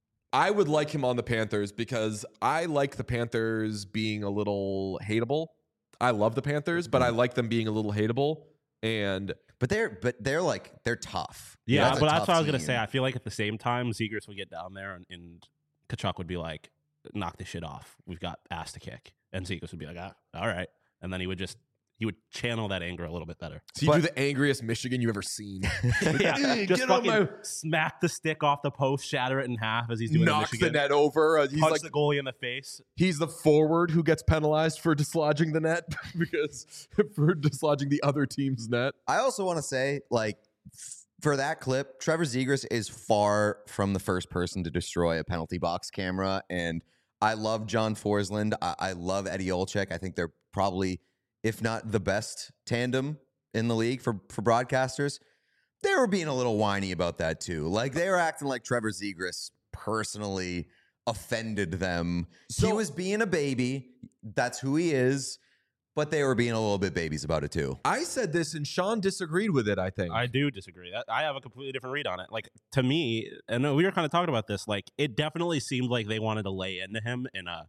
I would like him on the Panthers because I like the Panthers being a little hateable. I love the Panthers, but I like them being a little hateable. And But they're tough. Yeah, That's a but that's tough what I was going to team. say. I feel like at the same time, Zegras would get down there and Kachuk would be like, knock this shit off. We've got ass to kick. And Zegras would be like, all right. And then he would channel that anger a little bit better. so you do the angriest Michigan you've ever seen. Yeah, just Get on fucking my smack the stick off the post, shatter it in half as he's doing knocks in the Michigan. net over. He's Punch like the goalie in the face. he's the forward who gets penalized for dislodging the net because for dislodging the other team's net. I also want to say, like, for that clip, Trevor Zegras is far from the first person to destroy a penalty box camera. And I love John Forsland. I love Eddie Olczyk. I think they're probably, if not the best tandem in the league for broadcasters. They were being a little whiny about that too. Like they were acting like Trevor Zegras personally offended them. He was being a baby. That's who he is. But they were being a little bit babies about it too. I said this and Sean disagreed with it, I think. I do disagree. I have a completely different read on it. Like, to me, and we were kind of talking about this, like, it definitely seemed like they wanted to lay into him in a,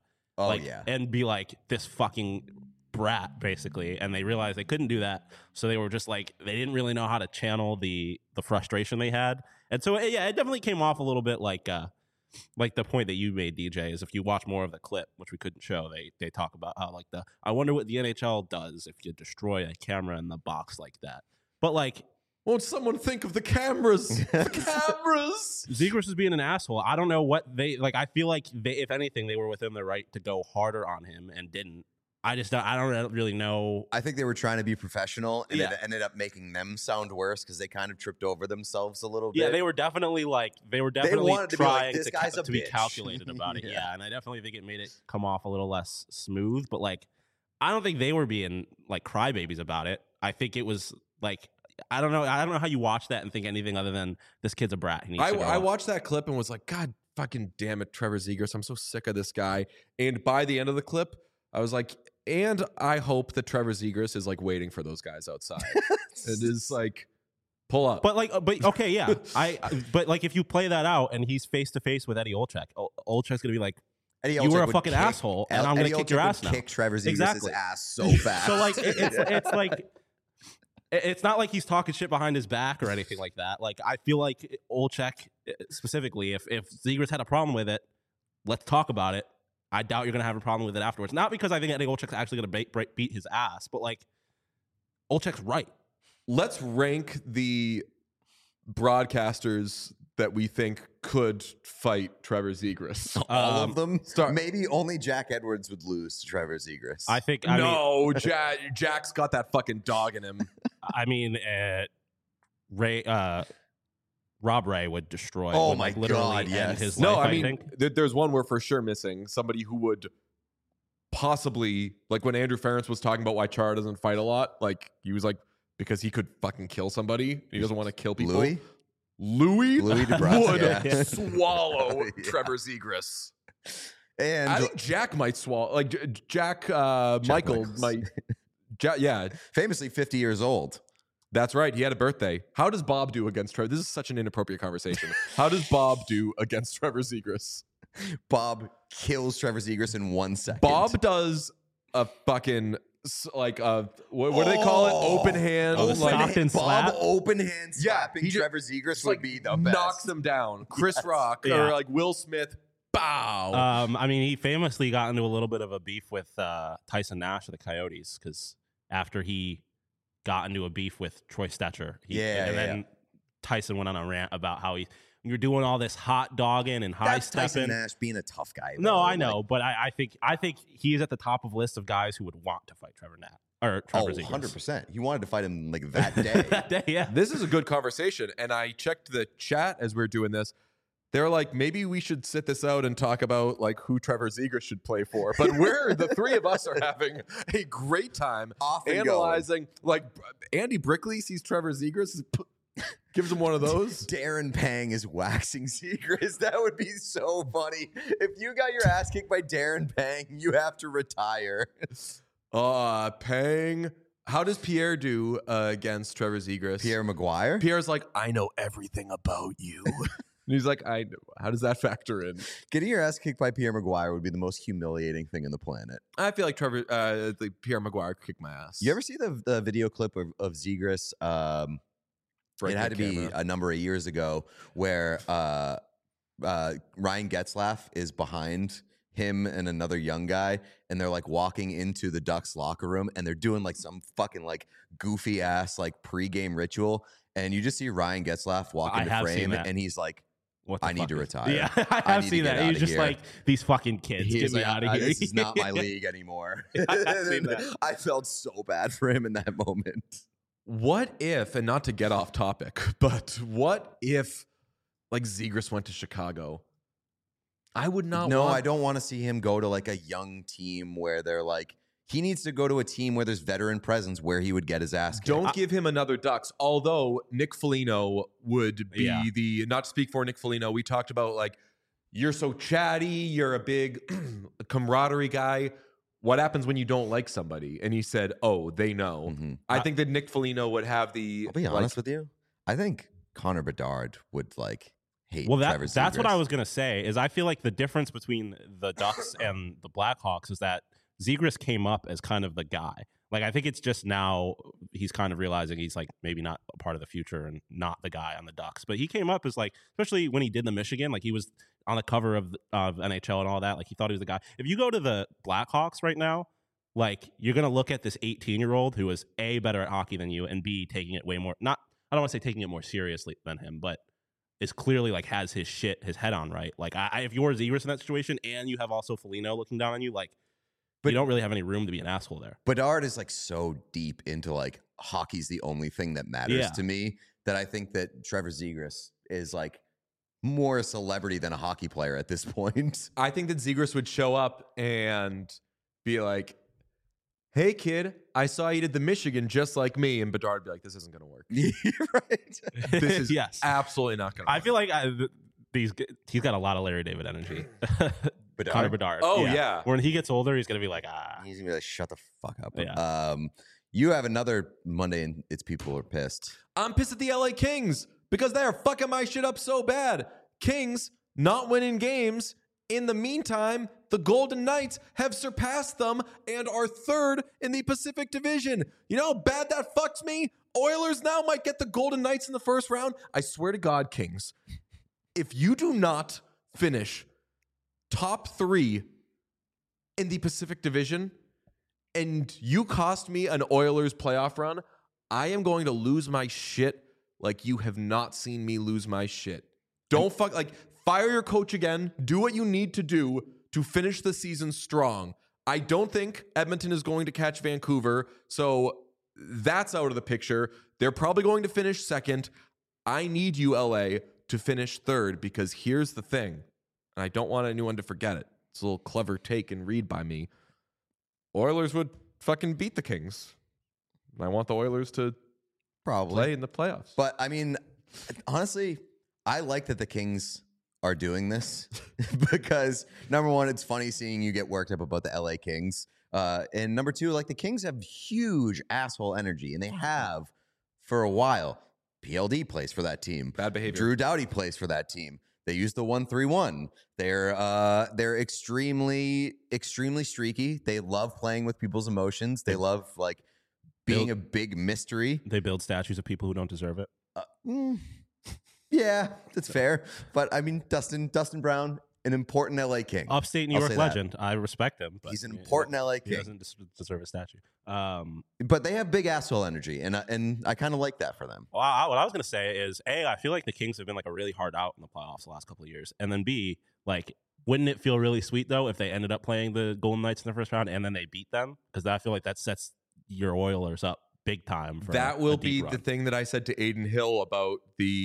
and be like this fucking brat, basically. And they realized they couldn't do that. So they were just like, they didn't really know how to channel the frustration they had. And so, yeah, it definitely came off a little bit like, like the point that you made, DJ, is if you watch more of the clip, which we couldn't show, they talk about how like I wonder what the NHL does if you destroy a camera in the box like that. But like, won't someone think of the cameras? The cameras. Zegras is being an asshole. I don't know what they like. I feel like if anything, they were within their right to go harder on him and didn't. I don't really know. I think they were trying to be professional, and Yeah. it ended up making them sound worse because they kind of tripped over themselves a little bit. Yeah, they were definitely wanted to be like, trying "This guy's a to be bitch." calculated about it. Yeah. Yeah, and I definitely think it made it come off a little less smooth. But like, I don't think they were being like crybabies about it. I think it was like, I don't know how you watch that and think anything other than this kid's a brat. He needs to grow I up. watched that clip and was like, God fucking damn it, Trevor Zegras. I'm so sick of this guy. And by the end of the clip, I was like, and I hope that Trevor Zegras is like waiting for those guys outside. It is like, pull up. But okay, yeah. But like if you play that out and he's face to face with Eddie Olczyk, Olczyk's gonna be like, Eddie you Olczyk were a would fucking asshole, and I'm gonna Eddie kick Olczyk your would ass now. Kick Trevor Zegras' Exactly. ass so fast. So like it's like it's not like he's talking shit behind his back or anything like that. Like I feel like Olczyk specifically, if Zegras had a problem with it, let's talk about it. I doubt you're gonna have a problem with it afterwards. Not because I think Eddie Olczyk's actually gonna beat his ass, but like Olczyk's right. Let's rank the broadcasters that we think could fight Trevor Zegras. all of them. start- Maybe only Jack Edwards would lose to Trevor Zegras. I think. No, Jack's got that fucking dog in him. I mean, Ray. Rob Ray would destroy. Oh would, my like, literally God, end yes. his No, life, I mean, think. there's one we're for sure missing. Somebody who would possibly, like when Andrew Ferentz was talking about why Chara doesn't fight a lot, like he was like, because he could fucking kill somebody. He doesn't want to kill people. Louis DeBrusque, would yeah. swallow Yeah. Trevor Zegras. And I think Jack might swallow. Like Jack Michael Michaels. might. Yeah, famously 50 years old. that's right. He had a birthday. How does Bob do against Trevor? This is such an inappropriate conversation. How does Bob do against Trevor Zegras? Bob kills Trevor Zegras in 1 second. Bob does a fucking like a what do they call it? Open hand. Oh, the like, Stockton Bob slap? open hand slapping he just- Trevor Zegras just, would like, be the best. knocks him down. Chris Rock Yeah. or like Will Smith. Bow. I mean, he famously got into a little bit of a beef with Tyson Nash of the Coyotes because after he got into a beef with Troy Stetcher, then Tyson went on a rant about how you're doing all this hot dogging and high That's Tyson stepping. Nash being a tough guy. No, though. I know, but I think he's at the top of a list of guys who would want to fight Trevor Nash or Trevor Zegras. 100%. He wanted to fight him like that day. That day, yeah. This is a good conversation. And I checked the chat as we are doing this. They're like, maybe we should sit this out and talk about like who Trevor Zegras should play for. But the three of us are having a great time Off and analyzing. Like Andy Brickley sees Trevor Zegras, gives him one of those. Darren Pang is waxing Zegras. That would be so funny. If you got your ass kicked by Darren Pang, you have to retire. Pang. How does Pierre do against Trevor Zegras? Pierre Maguire? Pierre's like, I know everything about you. And he's like, I know. How does that factor in? Getting your ass kicked by Pierre Maguire would be the most humiliating thing on the planet. I feel like Pierre Maguire kicked my ass. You ever see the video clip of Zegras? Break it had the to be camera. a number of years ago where Ryan Getzlaff is behind him and another young guy, and they're like walking into the Ducks locker room, and they're doing like some fucking like goofy ass like pregame ritual, and you just see Ryan Getzlaff walk I into have seen frame, that. and he's like, What the I need fuck to is- retire. Yeah, I I have need to seen get that. He's outta just here. like, these fucking kids, he's get me like, out of here. This is not my league anymore. I have seen that. I felt so bad for him in that moment. What if, and not to get off topic, but what if like Zegras went to Chicago? I would not No, want I don't want to see him go to like a young team where they're like, he needs to go to a team where there's veteran presence where he would get his ass kicked. Don't give him another Ducks. Although Nick Foligno would be Yeah. the, not to speak for Nick Foligno, we talked about like, you're so chatty, you're a big camaraderie guy. What happens when you don't like somebody? And he said, oh, they know. Mhm. I think that Nick Foligno would have the. I'll be honest with you. I think Connor Bedard would like hate Well, Trevor that's what Zegras. I was gonna say. Is I feel like the difference between the Ducks and the Blackhawks is that Zegras came up as kind of the guy. Like, I think it's just now he's kind of realizing he's like maybe not a part of the future and not the guy on the Ducks. But he came up as like, especially when he did the Michigan, like he was on the cover of NHL and all that. Like he thought he was the guy. If you go to the Blackhawks right now, like you're gonna look at this 18-year-old who is A, better at hockey than you, and B, taking it way more. Not, I don't want to say taking it more seriously than him, but is clearly like has his head on right. Like if you're Zegras in that situation, and you have also Foligno looking down on you, like. But you don't really have any room to be an asshole there. Bedard is like so deep into like hockey's the only thing that matters to me that I think that Trevor Zegras is like more a celebrity than a hockey player at this point. I think that Zegras would show up and be like, "Hey kid, I saw you did the Michigan just like me," and Bedard would be like, "This isn't going to work. Right? This is yes. absolutely not going to work." I feel like he's got a lot of Larry David energy. Connor Bedard. Oh, yeah. When he gets older, he's gonna be like, He's gonna be like, shut the fuck up. Yeah. You have another Monday and its people are pissed. I'm pissed at the LA Kings because they're fucking my shit up so bad. Kings not winning games. In the meantime, the Golden Knights have surpassed them and are third in the Pacific Division. You know how bad that fucks me? Oilers now might get the Golden Knights in the first round. I swear to God, Kings, if you do not finish top 3 in the Pacific Division and you cost me an Oilers playoff run, I am going to lose my shit like you have not seen me lose my shit. Don't fire your coach again. Do what you need to do to finish the season strong. I don't think Edmonton is going to catch Vancouver, so that's out of the picture. They're probably going to finish second. I need you, LA, to finish third because here's the thing. And I don't want anyone to forget it. It's a little clever take and read by me. Oilers would fucking beat the Kings. I want the Oilers to probably play in the playoffs. But I mean, honestly, I like that the Kings are doing this because number one, it's funny seeing you get worked up about the LA Kings. And number two, like the Kings have huge asshole energy and they have for a while. PLD plays for that team. Bad behavior. Drew Doughty plays for that team. They use the 1-3-1. They're extremely streaky. They love playing with people's emotions. They love like being a big mystery. They build statues of people who don't deserve it. Yeah, that's fair. But I mean, Dustin Brown, an important LA King. Upstate New York legend. I respect him. But he's an important LA King. He doesn't deserve a statue. But they have big asshole energy, and I kind of like that for them. Well, what I was going to say is, A, I feel like the Kings have been like a really hard out in the playoffs the last couple of years. And then B, like, wouldn't it feel really sweet, though, if they ended up playing the Golden Knights in the first round and then they beat them? Because I feel like that sets your Oilers up big time. For that will be run. the thing that I said to Aiden Hill about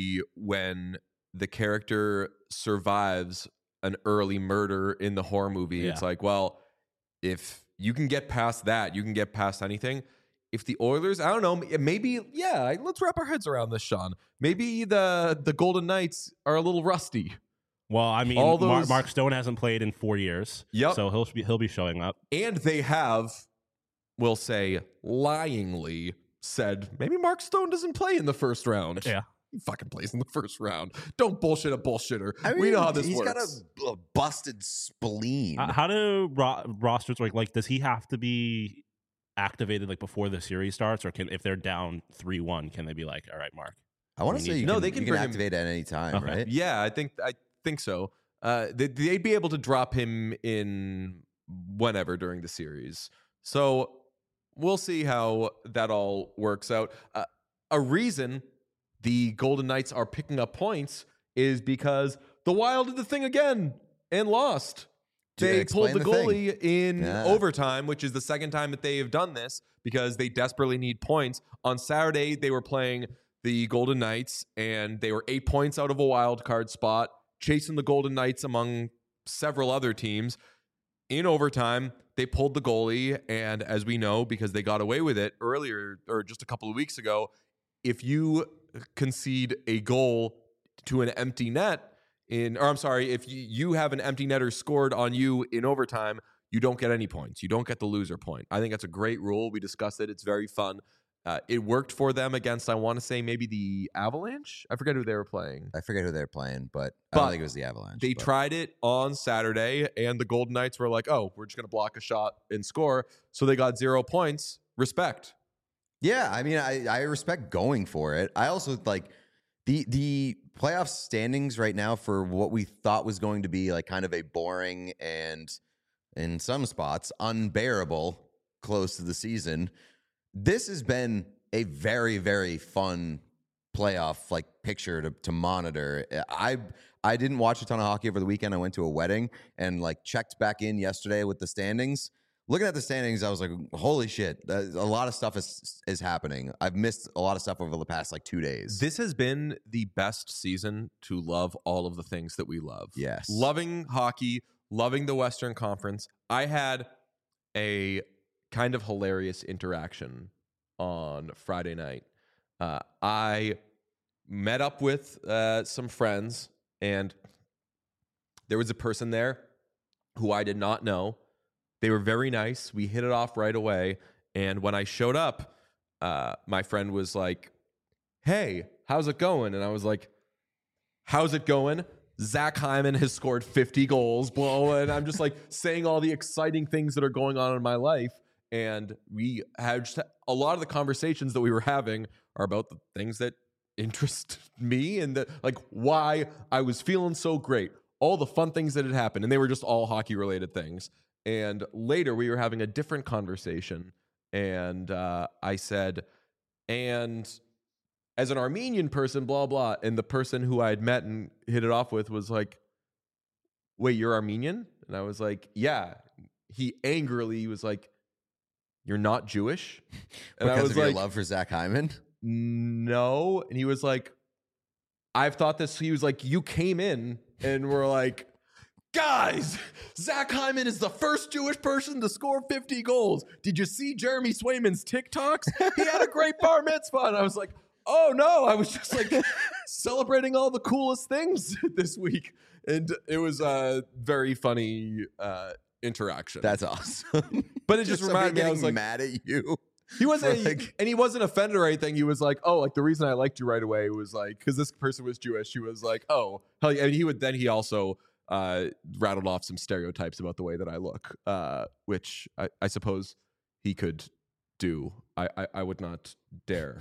when the character survives an early murder in the horror movie. Yeah. It's like, well, if you can get past that, you can get past anything. If the Oilers, I don't know, maybe, let's wrap our heads around this, Sean. Maybe the Golden Knights are a little rusty. Well, I mean, all those, Mark Stone hasn't played in 4 years. Yep. So he'll be showing up. And they have, we'll say, lyingly said, maybe Mark Stone doesn't play in the first round. Yeah. He fucking plays in the first round. Don't bullshit a bullshitter. I mean, we know how this he's works. He's got a busted spleen. How do rosters work? Like, does he have to be activated like before the series starts, or if they're down 3-1, can they be like, all right, Mark? I want to say they can bring activate at any time, Okay. right? Yeah, I think so. They'd be able to drop him in whenever during the series. So we'll see how that all works out. A reason the Golden Knights are picking up points is because the Wild did the thing again and lost. They pulled the goalie in overtime, which is the second time that they have done this because they desperately need points. On Saturday, they were playing the Golden Knights, and they were 8 points out of a wild card spot, chasing the Golden Knights among several other teams. In overtime, they pulled the goalie, and as we know, because they got away with it earlier or just a couple of weeks ago, if you concede a goal to an empty net, if you have an empty netter scored on you in overtime, you don't get any points. You don't get the loser point. I think that's a great rule. We discussed it. It's very fun. It worked for them against, I want to say, maybe the Avalanche. I forget who they were playing. I forget who they were playing, but I don't think it was the Avalanche. They tried it on Saturday, and the Golden Knights were like, oh, we're just going to block a shot and score. So they got 0 points. respect. Yeah, I mean, I respect going for it. I also like the playoff standings right now for what we thought was going to be like kind of a boring and in some spots unbearable close to the season. This has been a very, very fun playoff like picture to monitor. I didn't watch a ton of hockey over the weekend. I went to a wedding and like checked back in yesterday with the standings. Looking at the standings, I was like, holy shit, a lot of stuff is happening. I've missed a lot of stuff over the past like 2 days. This has been the best season to love all of the things that we love. Yes. Loving hockey, loving the Western Conference. I had a kind of hilarious interaction on Friday night. I met up with some friends, and there was a person there who I did not know. They were very nice. We hit it off right away. And when I showed up, my friend was like, hey, how's it going? And I was like, how's it going? Zach Hyman has scored 50 goals, blah. And I'm just like saying all the exciting things that are going on in my life. And we had just a lot of the conversations that we were having are about the things that interest me and the, like why I was feeling so great, all the fun things that had happened. And they were just all hockey related things. And later we were having a different conversation. And I said, and as an Armenian person, blah, blah. And the person who I had met and hit it off with was like, wait, you're Armenian? And I was like, yeah. He angrily was like, you're not Jewish? And because I was of like, your love for Zach Hyman? No. And he was like, I've thought this. He was like, you came in and were like, guys, Zach Hyman is the first Jewish person to score 50 goals. Did you see Jeremy Swayman's TikToks? He had a great bar mitzvah. And I was like, oh no, I was just like celebrating all the coolest things this week. And it was a very funny interaction. That's awesome. But it just reminded me, I was like, mad at you. He wasn't, like, and he wasn't offended or anything. He was like, "Oh, like the reason I liked you right away was like because this person was Jewish." He was like, "Oh, hell yeah!" And he would then he also rattled off some stereotypes about the way that I look, which I suppose he could do. I would not dare,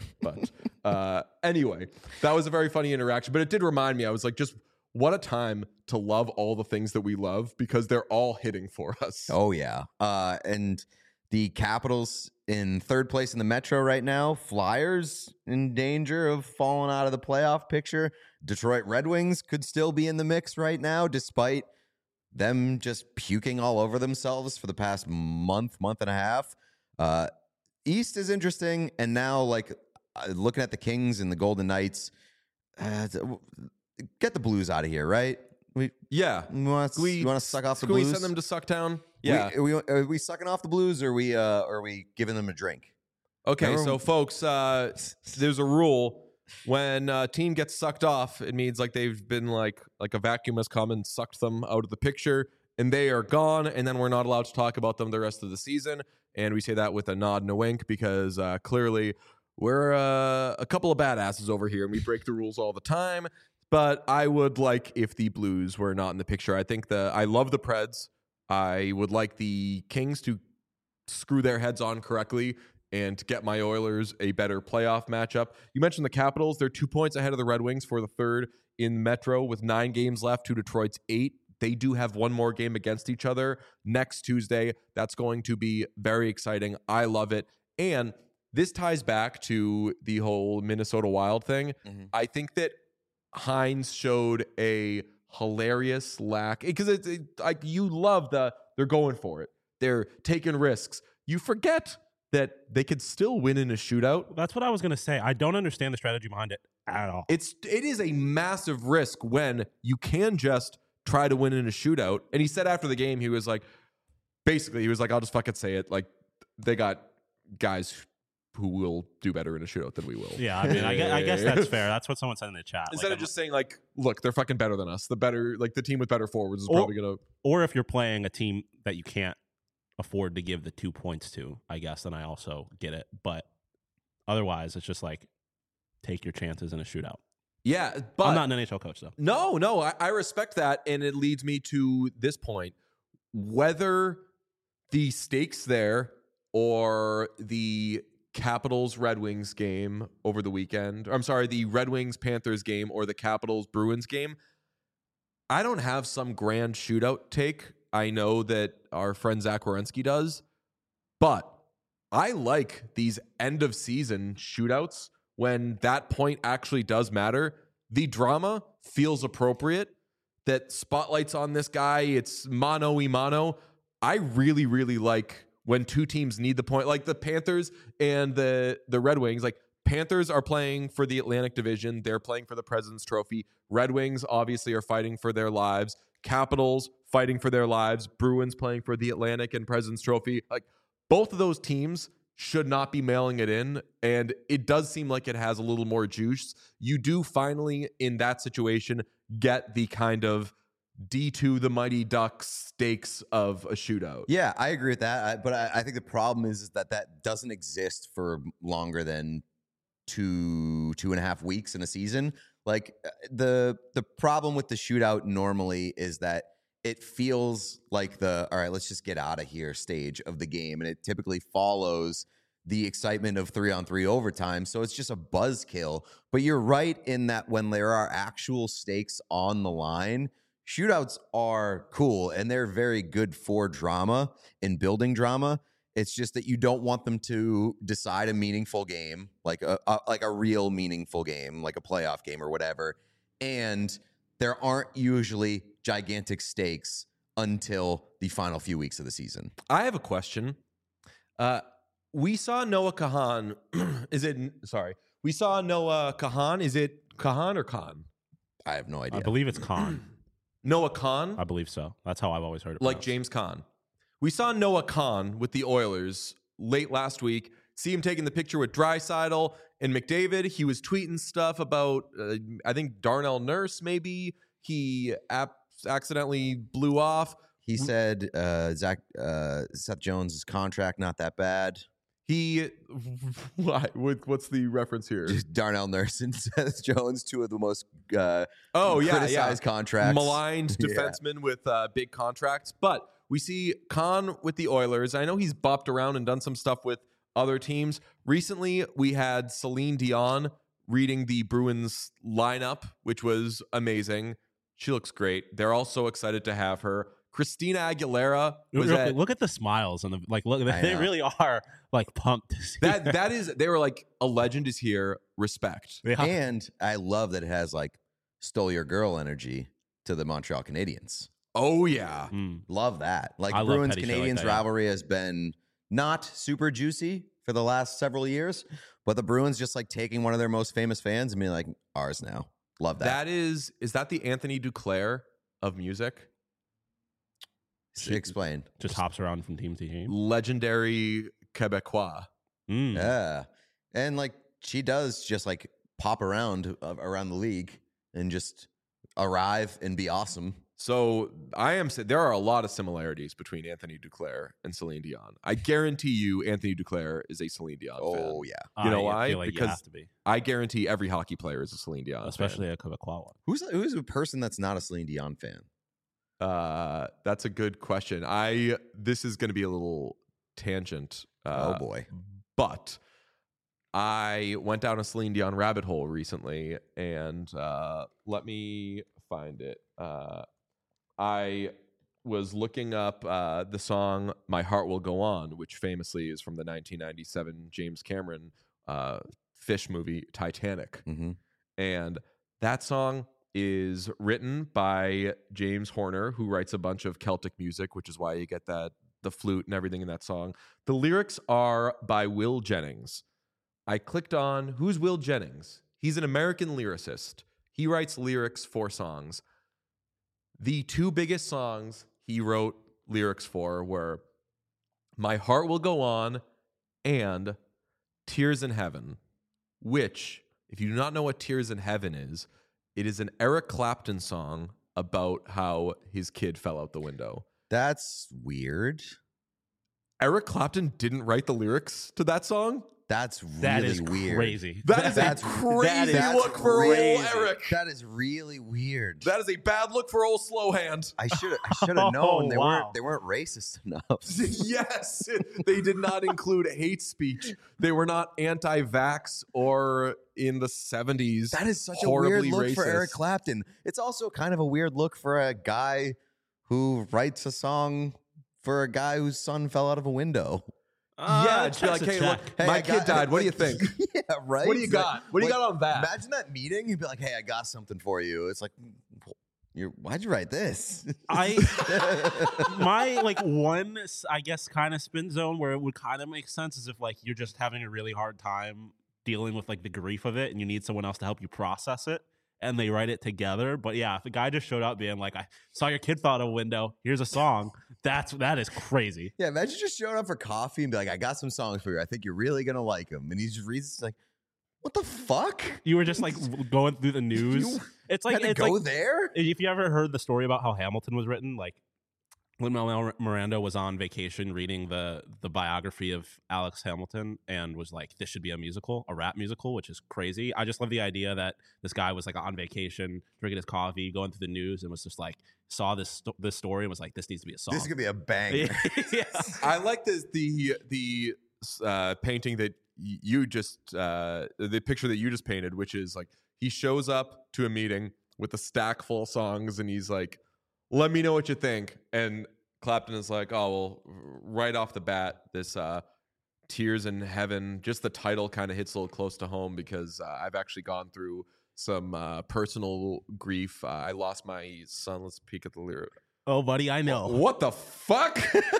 but anyway, that was a very funny interaction. But it did remind me. I was like, just what a time to love all the things that we love because they're all hitting for us. Oh yeah, and the Capitals in third place in the Metro right now. Flyers in danger of falling out of the playoff picture. Detroit Red Wings could still be in the mix right now, despite them just puking all over themselves for the past month and a half. East is interesting, and now like looking at the Kings and the Golden Knights, get the Blues out of here, right? You want to suck off the Blues? Can we send them to Sucktown? Yeah. Are we sucking off the Blues, or are we giving them a drink? Okay, Remember- so folks, there's a rule. When a team gets sucked off, it means like they've been like a vacuum has come and sucked them out of the picture, and they are gone, and then we're not allowed to talk about them the rest of the season. And we say that with a nod and a wink because clearly we're a couple of badasses over here, and we break the rules all the time. But I would like if the Blues were not in the picture. I think I love the Preds. I would like the Kings to screw their heads on correctly and to get my Oilers a better playoff matchup. You mentioned the Capitals. They're 2 points ahead of the Red Wings for the third in Metro with 9 games left to Detroit's 8. They do have one more game against each other next Tuesday. That's going to be very exciting. I love it. And this ties back to the whole Minnesota Wild thing. Mm-hmm. I think that Hines showed a hilarious lack because it's like you love they're going for it. They're taking risks. You forget that they could still win in a shootout. That's what I was going to say. I don't understand the strategy behind it at all. It is a massive risk when you can just try to win in a shootout. And he said after the game, he was like, I'll just fucking say it. Like they got guys who will do better in a shootout than we will. Yeah, I mean, I guess that's fair. That's what someone said in the chat. Instead of just saying like, look, they're fucking better than us. The team with better forwards is probably gonna. Or if you're playing a team that you can't afford to give the 2 points to, I guess, then I also get it. But otherwise, it's just like take your chances in a shootout. Yeah, but I'm not an NHL coach though. No, I respect that, and it leads me to this point: whether the stakes there or the Capitals Red Wings game over the weekend. I'm sorry, the Red Wings Panthers game or the Capitals Bruins game, I don't have some grand shootout take. I know that our friend Zach Wierenski does, but I like these end of season shootouts when that point actually does matter. The drama feels appropriate. That spotlight's on this guy. It's mano y mano. I really, really like when two teams need the point, like the Panthers and the Red Wings. Like Panthers are playing for the Atlantic Division. They're playing for the President's Trophy. Red Wings obviously are fighting for their lives. Capitals fighting for their lives. Bruins playing for the Atlantic and President's Trophy. Like both of those teams should not be mailing it in. And it does seem like it has a little more juice. You do finally, in that situation, get the kind of D2 the Mighty Ducks stakes of a shootout. Yeah, I agree with that. But I think the problem is that doesn't exist for longer than 2.5 weeks in a season. Like the problem with the shootout normally is that it feels like all right, let's just get out of here stage of the game. And it typically follows the excitement of 3-on-3 overtime. So it's just a buzzkill. But you're right in that when there are actual stakes on the line, shootouts are cool and they're very good for drama and building drama. It's just that you don't want them to decide a meaningful game, like a real meaningful game, like a playoff game or whatever. And there aren't usually gigantic stakes until the final few weeks of the season. I have a question. We saw Noah Kahan. We saw Noah Kahan. Is it Kahan or Khan? I have no idea. I believe it's Khan. Noah Khan? I believe so. That's how I've always heard it. Like pronounced. James Conn. We saw Noah Khan with the Oilers late last week. See him taking the picture with Draisaitl and McDavid. He was tweeting stuff about, I think, Darnell Nurse, maybe. He accidentally blew off. He said Seth Jones' contract not that bad. What's the reference here? Just Darnell Nurse and Seth Jones, two of the most criticized contracts. Maligned defensemen with big contracts. But we see Khan with the Oilers. I know he's bopped around and done some stuff with other teams. Recently, we had Celine Dion reading the Bruins lineup, which was amazing. She looks great. They're all so excited to have her. Christina Aguilera was look at the smiles and look, they really are like pumped to see that is, they were like, a legend is here, respect. Yeah. And I love that it has like stole your girl energy to the Montreal Canadiens. Oh yeah. Love that. Like I love Bruins petty shit like Canadiens that, yeah. rivalry has been not super juicy for the last several years, but the Bruins just like taking one of their most famous fans and being like, ours now. Love that. That is that the Anthony Duclair of music? Explain. just hops around from team to team. Legendary Quebecois. Yeah. And like she does just like pop around the league and just arrive and be awesome. So I am saying there are a lot of similarities between Anthony Duclair and Celine Dion. I guarantee you Anthony Duclair is a Celine Dion fan. Oh yeah. You know why? I feel like you Because have to be, I guarantee every hockey player is a Celine Dion especially a Quebecois one. Who's a person that's not a Celine Dion fan? fan. That's a good question. This is going to be a little tangent. Oh boy. But I went down a Celine Dion rabbit hole recently, and let me find it. I was looking up the song "My Heart Will Go On," which famously is from the 1997 James Cameron fish movie Titanic. Mm-hmm. And that song is written by James Horner, who writes a bunch of Celtic music, which is why you get the flute and everything in that song. The lyrics are by Will Jennings. I clicked on, who's Will Jennings? He's an American lyricist. He writes lyrics for songs. The two biggest songs he wrote lyrics for were My Heart Will Go On and Tears in Heaven, which, if you do not know what Tears in Heaven is, it is an Eric Clapton song about how his kid fell out the window. That's weird. Eric Clapton didn't write the lyrics to that song? That's That really is weird. crazy. That is That's- a crazy that's look for crazy. old Eric. That is really weird. That is a bad look for old Slowhand. I should have known they wow. weren't racist enough. Yes, they did not include hate speech. They were not anti-vax or in the 70s. That is such a horribly weird look racist. for Eric Clapton. It's also kind of a weird look for a guy who writes a song for a guy whose son fell out of a window. Yeah, just be like, hey, look, my I kid died. What do you think? Yeah, right. What do you It's got? What do you got on that? Imagine that meeting. You'd be like, hey, I got something for you. It's like, why'd you write this? My like one, I guess, kind of spin zone where it would kind of make sense is if like you're just having a really hard time dealing with like the grief of it and you need someone else to help you process it and they write it together. But yeah, if a guy just showed up being like, I saw your kid fall out of a window, here's a song, that is crazy. Yeah, imagine just showing up for coffee and be like, I got some songs for you. I think you're really going to like them. And he just reads it's like, what the fuck? You were just like going through the news. You It's like had to it's go like there? if you ever heard the story about how Hamilton was written, like Lin-Manuel Miranda was on vacation reading the biography of Alex Hamilton and was like, this should be a musical, a rap musical, which is crazy. I just love the idea that this guy was like on vacation, drinking his coffee, going through the news, and was just like, saw this story and was like, this needs to be a song. This could be a banger. Yeah. I like the painting that you just the picture that you just painted, which is like he shows up to a meeting with a stack full of songs and he's like, let me know what you think. And Clapton is like, oh well, right off the bat, this Tears in Heaven, just the title kind of hits a little close to home because I've actually gone through some personal grief. I lost my son. Let's peek at the lyric. Oh, buddy, I know. What the fuck?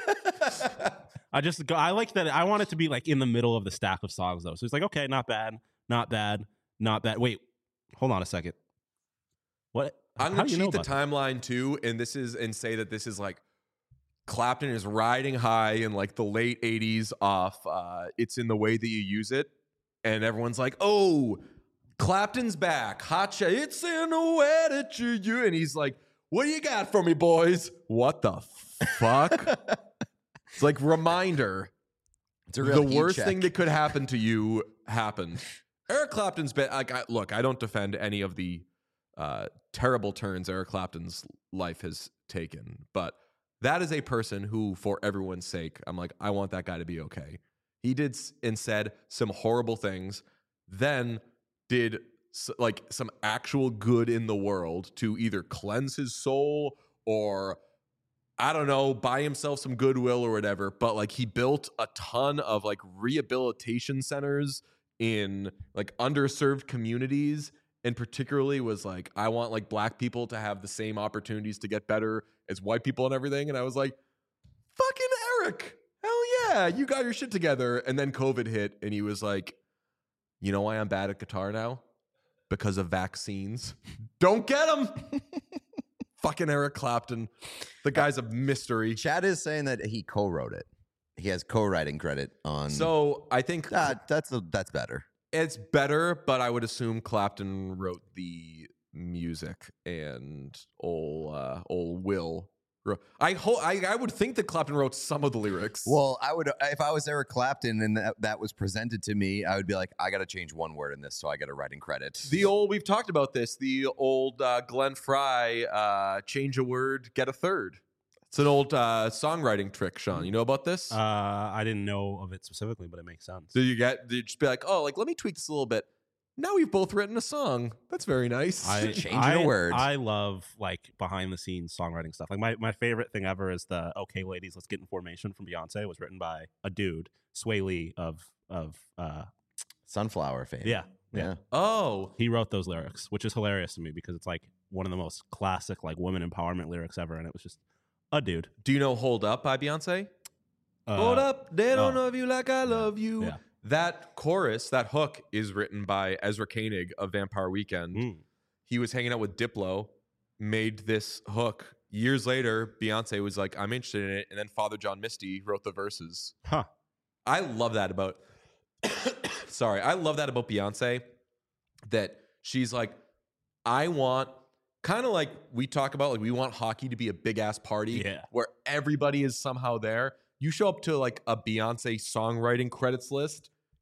I like that. I want it to be like in the middle of the stack of songs though. So it's like, okay, not bad, not bad, not bad. Wait, hold on a second. What? I'm How gonna do you know cheat the about that? timeline too, and say that this is like Clapton is riding high in like the late '80s off "It's in the Way That You Use It," and everyone's like, "Oh, Clapton's back, hotshot! It's in the way that you use," and he's like, "What do you got for me, boys? What the fuck?" It's like reminder. It's a real The heat worst check. thing that could happen to you happened. Eric Clapton's been like, look, I don't defend any of the terrible turns Eric Clapton's life has taken, but that is a person who, for everyone's sake, I'm like, I want that guy to be okay. He did and said some horrible things, then did like some actual good in the world to either cleanse his soul or, I don't know, buy himself some goodwill or whatever. But like he built a ton of like rehabilitation centers in like underserved communities, and particularly was like, I want like black people to have the same opportunities to get better as white people and everything. And I was like, fucking Eric, hell yeah, you got your shit together. And then COVID hit and he was like, you know why I'm bad at guitar now? Because of vaccines. Don't get them. Fucking Eric Clapton. The guy's a mystery. Chad is saying that he co-wrote it. He has co-writing credit on. So I think that's better. it's better, but I would assume Clapton wrote the music and old Will. I would think that Clapton wrote some of the lyrics. Well, I would if I was Eric Clapton and that was presented to me, I would be like, I got to change one word in this, so I got a writing credit. We've talked about this. The old Glenn Fry, change a word, get a third. It's an old songwriting trick, Sean. You know about this? I didn't know of it specifically, but it makes sense. Do you just be like, oh, like let me tweak this a little bit. Now we've both written a song. That's very nice. Changing a word. I love like behind the scenes songwriting stuff. Like my favorite thing ever is the "Okay, Ladies, Let's Get in Formation" from Beyonce. It was written by a dude, Sway Lee of Sunflower fame. yeah. Oh, He wrote those lyrics, which is hilarious to me because it's like one of the most classic like women empowerment lyrics ever, and it was just a dude. do you know "Hold Up" by Beyonce? Hold up, they don't oh. love you like I love you. Yeah. That chorus, that hook, is written by Ezra Koenig of Vampire Weekend. Mm. He was hanging out with Diplo, made this hook. Years later, Beyonce was like, I'm interested in it. And then Father John Misty wrote the verses. Huh. I love that about sorry, I love that about Beyonce, that she's like, I want, kind of like we talk about, like we want hockey to be a big ass party where everybody is somehow there. You show up to like a Beyonce songwriting credits list,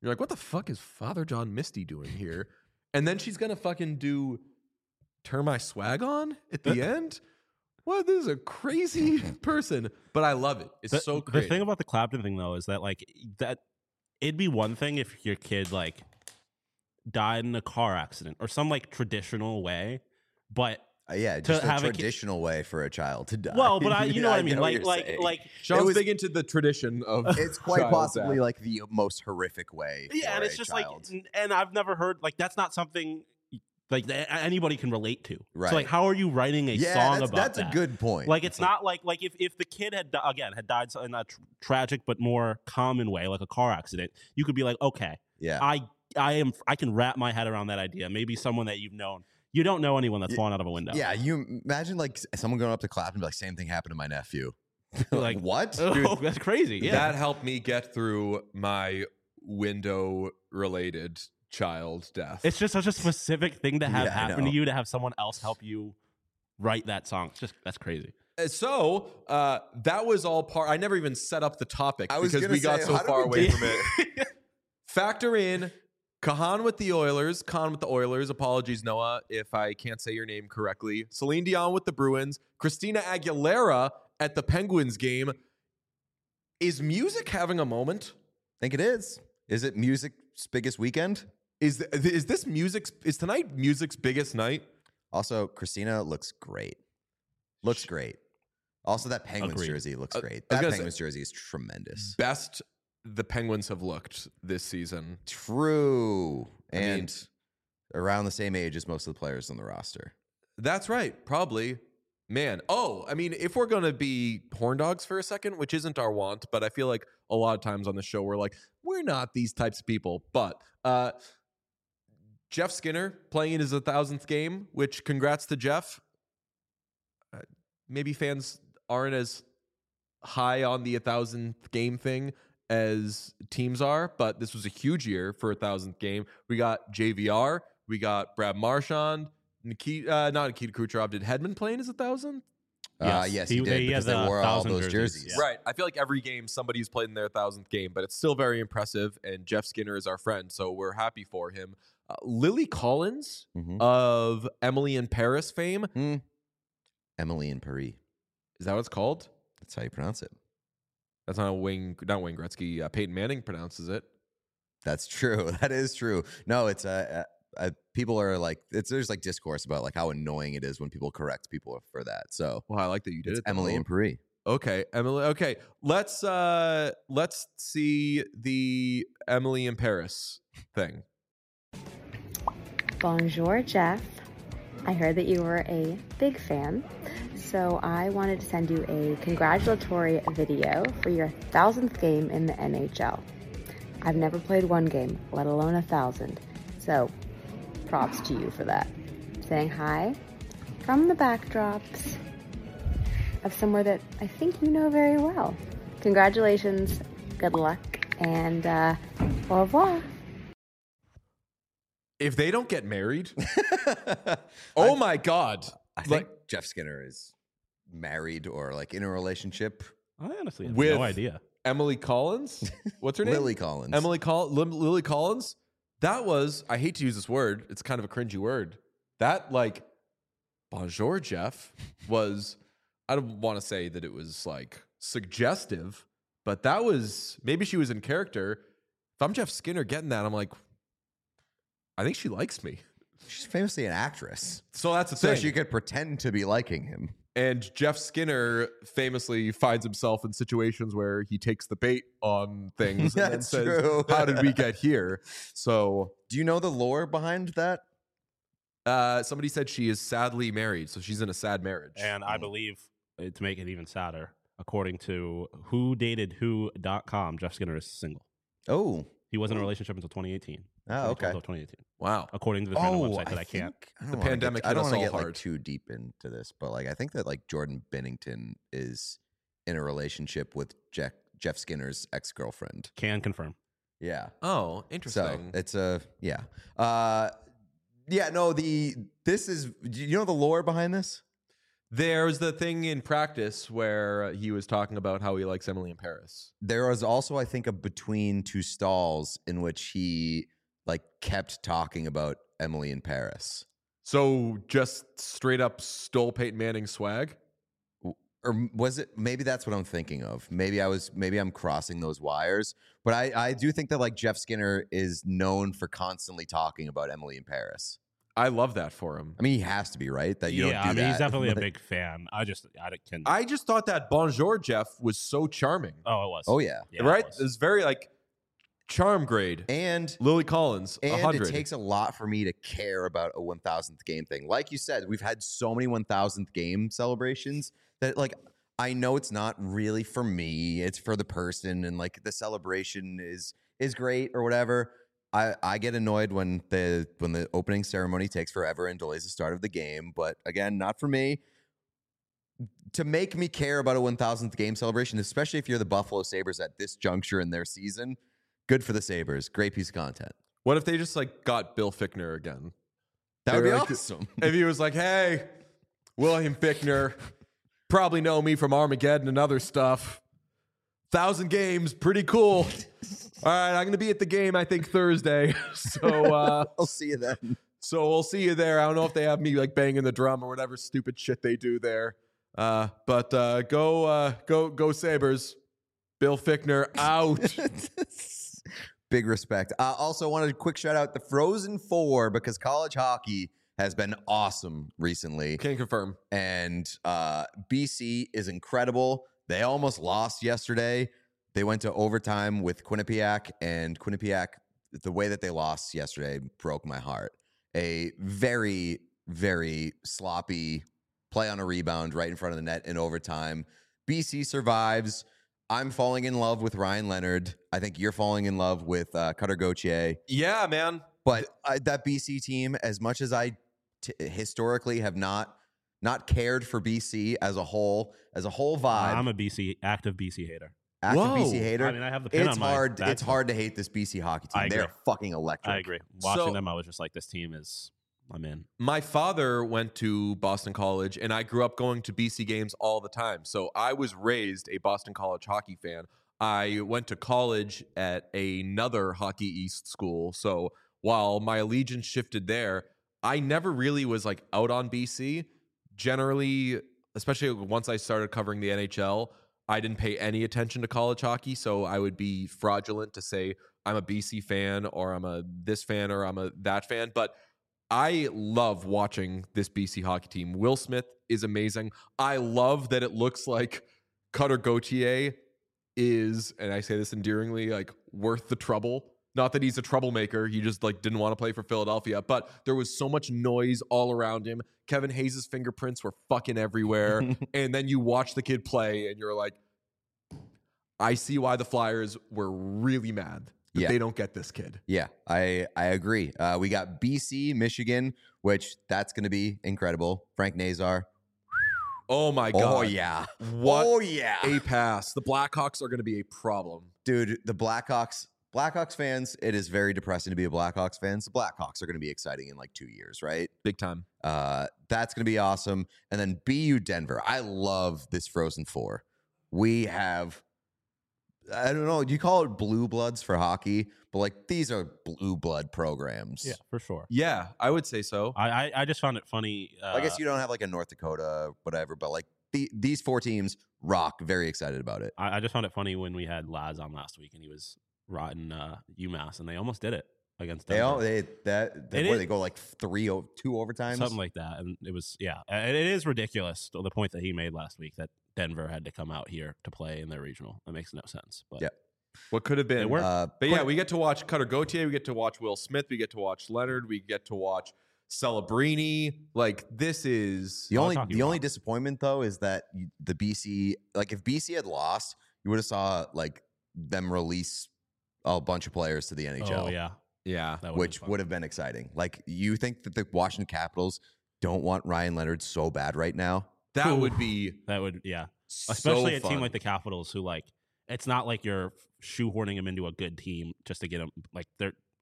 You're like, what the fuck is Father John Misty doing here? And then she's gonna fucking do Turn My Swag On at the end. What? This is a crazy person, but I love it. It's so The creative. thing about the Clapton thing, though, is that like that it'd be one thing if your kid like died in a car accident or some like traditional way, but Yeah, just a have a kid- traditional way for a child to die. well, but you know what I mean, know what like you're saying. Sean's it was- big into the tradition of. It's quite child possibly death. like the most horrific way. yeah, for and it's a just child. like, and I've never heard like that's not something like that anybody can relate to. Right. So like, how are you writing a yeah, song that's, about that's that? a good point. Like it's not like if the kid had died in a tragic but more common way, like a car accident, you could be like, okay, yeah, I can wrap my head around that idea. Maybe someone that you've known. You don't know anyone that's fallen out of a window. yeah. You imagine like someone going up to Clapton and be like, "Same thing happened to my nephew." Like, what? Oh, that's crazy. Yeah. That helped me get through my window-related child death. It's just such a specific thing to have Yeah, I happen to know. you to have someone else help you write that song. It's just that's crazy. So that was all part. I never even set up the topic I was because gonna we got say, so how did far we away get- from it. Factor in Kahan with the Oilers. Khan with the Oilers. Apologies, Noah, if I can't say your name correctly. Celine Dion with the Bruins. Christina Aguilera at the Penguins game. Is music having a moment? Think it is. Is it music's biggest weekend? Is this music's? Is tonight music's biggest night? Also, Christina looks great. Looks great. Also, that Penguins Agreed. jersey looks great. I was That gonna Penguins jersey is tremendous. Best the Penguins have looked this season. True. I mean- And around the same age as most of the players on the roster. That's right. Probably. Man. Oh, I mean, if we're going to be horn dogs for a second, which isn't our want, but I feel like a lot of times on the show, we're like, we're not these types of people. But Jeff Skinner playing in his 1,000th game, which congrats to Jeff. Maybe fans aren't as high on the 1,000th game thing as teams are, but this was a huge year for 1,000th game. We got JVR, we got Brad Marchand, not Nikita Kucherov. Did Hedman play in his 1,000th? Yes, he did he because had they the wore all 1,000 those jerseys, jerseys. yeah. Right. I feel like every game somebody's played in their 1,000th game, but it's still very impressive. And Jeff Skinner is our friend, so we're happy for him. Lily Collins Mhm. of Emily in Paris fame. Emily in Paris. Is that what it's called? That's how you pronounce it. That's not Wayne Gretzky. Peyton Manning pronounces it. That's true. That is true. No, it's people are like there's like discourse about like how annoying it is when people correct people for that. So Well, I like that you did it's it. Emily though. in Paris. Okay, Emily. Okay, let's see the Emily in Paris thing. Bonjour, Jeff. I heard that you were a big fan, so I wanted to send you a congratulatory video for your 1,000th game in the NHL. I've never played one game, let alone 1,000, so props to you for that. Saying hi from the backdrops of somewhere that I think you know very well. Congratulations, good luck, and au revoir. If they don't get married, oh my god! I think Like, Jeff Skinner is married or like in a relationship. I honestly have With- no idea. Emily Collins, what's her name? Lily Collins. Lily Collins. That was. I hate to use this word. It's kind of a cringy word. That like, bonjour, Jeff was. I don't want to say that it was like suggestive, but that was maybe she was in character. If I'm Jeff Skinner getting that, I'm like, I think she likes me. She's famously an actress. So that's the So thing. she could pretend to be liking him. And Jeff Skinner famously finds himself in situations where he takes the bait on things and then That's says, true. how did we get here? So Do you know the lore behind that? somebody said she is sadly married, so she's in a sad marriage. And I believe to make it even sadder, according to whodatedwho.com, Jeff Skinner is single. Oh. He was in a relationship until 2018. Oh, okay. 2018. Wow. According to the random website that I can't. The pandemic I hit don't us want to all get like hard. too deep into this, but like I think that like Jordan Bennington is in a relationship with Jeff Skinner's ex-girlfriend. Can confirm. Yeah. Oh, So interesting. it's a yeah. No, this is, do you know the lore behind this? There's the thing in practice where he was talking about how he likes Emily in Paris. There was also, I think, a between two stalls in which he like kept talking about Emily in Paris. So just straight up stole Peyton Manning's swag? Or was it? Maybe that's what I'm thinking of. Maybe I'm crossing those wires. But I do think that like Jeff Skinner is known for constantly talking about Emily in Paris. I love that for him. I mean, he has to be, right? That you don't do that. He's definitely a Like- big fan. I can. I just thought that Bonjour Jeff was so charming. Oh, it was. Oh yeah. Right? It was. It's very like charm grade. And Lily Collins, And 100. it takes a lot for me to care about a 1,000th game thing. Like you said, we've had so many 1,000th game celebrations that, like, I know it's not really for me. It's for the person, and like the celebration is great or whatever. I get annoyed when the opening ceremony takes forever and delays the start of the game. But again, not for me. To make me care about a 1,000th game celebration, especially if you're the Buffalo Sabres at this juncture in their season, good for the Sabres. Great piece of content. What if they just like got Bill Fichtner again? That would They be were like- awesome. If he was like, hey, William Fichtner, probably know me from Armageddon and other stuff. 1,000 games, pretty cool. All right, I'm going to be at the game, I think, Thursday. So I'll see you then. so we'll see you there. I don't know if they have me like banging the drum or whatever stupid shit they do there. But go Sabres. Bill Fichtner out. Big respect. Also wanted a quick shout out the Frozen Four because college hockey has been awesome recently. Can confirm. And BC is incredible. They almost lost yesterday. They went to overtime with Quinnipiac, and Quinnipiac, the way that they lost yesterday broke my heart. A very, very sloppy play on a rebound right in front of the net in overtime. BC survives. I'm falling in love with Ryan Leonard. I think you're falling in love with Cutter Gauthier. Yeah, man. But that BC team, as much as I historically have not cared for BC as a whole vibe, I'm a active BC hater. active Whoa. BC hater. I mean, I have the pin It's on my hard. back. It's hard to hate this BC hockey I team. agree. They're fucking electric. I agree. Watching So- them, I was just like, this team is. I'm in. My father went to Boston College, and I grew up going to BC games all the time. So I was raised a Boston College hockey fan. I went to college at another Hockey East school. So while my allegiance shifted there, I never really was like out on BC. Generally, especially once I started covering the NHL, I didn't pay any attention to college hockey. So I would be fraudulent to say I'm a BC fan or I'm a this fan or I'm a that fan. But I love watching this BC hockey team. Will Smith is amazing. I love that it looks like Cutter Gauthier is, and I say this endearingly, like worth the trouble. Not that he's a troublemaker. He just like didn't want to play for Philadelphia, but there was so much noise all around him. Kevin Hayes' fingerprints were fucking everywhere. And then you watch the kid play and you're like, I see why the Flyers were really mad that Yeah. they don't get this kid. Yeah, I agree. We got BC, Michigan, which that's going to be incredible. Frank Nazar. Oh my God. Oh yeah. What Oh yeah. a pass. The Blackhawks are going to be a problem. Dude, the Blackhawks fans, it is very depressing to be a Blackhawks fan. The Blackhawks are going to be exciting in like 2 years, right? Big time. That's going to be awesome. And then BU Denver. I love this Frozen Four. We have, I don't know, do you call it blue bloods for hockey? But like these are blue blood programs. Yeah, for sure. Yeah, I would say so. I just found it funny. I guess you don't have like a North Dakota, whatever, but like these four teams rock. Very excited about it. I just found it funny when we had Laz on last week and he was rotting UMass and they almost did it against Denver. They go like 2 overtimes. Something like that. And it was, yeah, and it is ridiculous. The point that he made last week that Denver had to come out here to play in their regional. That makes no sense. But Yeah. What could have been? It worked. But yeah, we get to watch Cutter Gauthier. We get to watch Will Smith. We get to watch Leonard. We get to watch Celebrini. Like this is The College only hockey the only rocks. disappointment though is that the BC, like if BC had lost, you would have saw like them release a bunch of players to the NHL. oh yeah, yeah. that Which would have been exciting. Like you think that the Washington Capitals don't want Ryan Leonard so bad right now? That would be that would yeah, so especially a team fun. like the Capitals who like it's not like you're shoehorning him into a good team just to get him like they're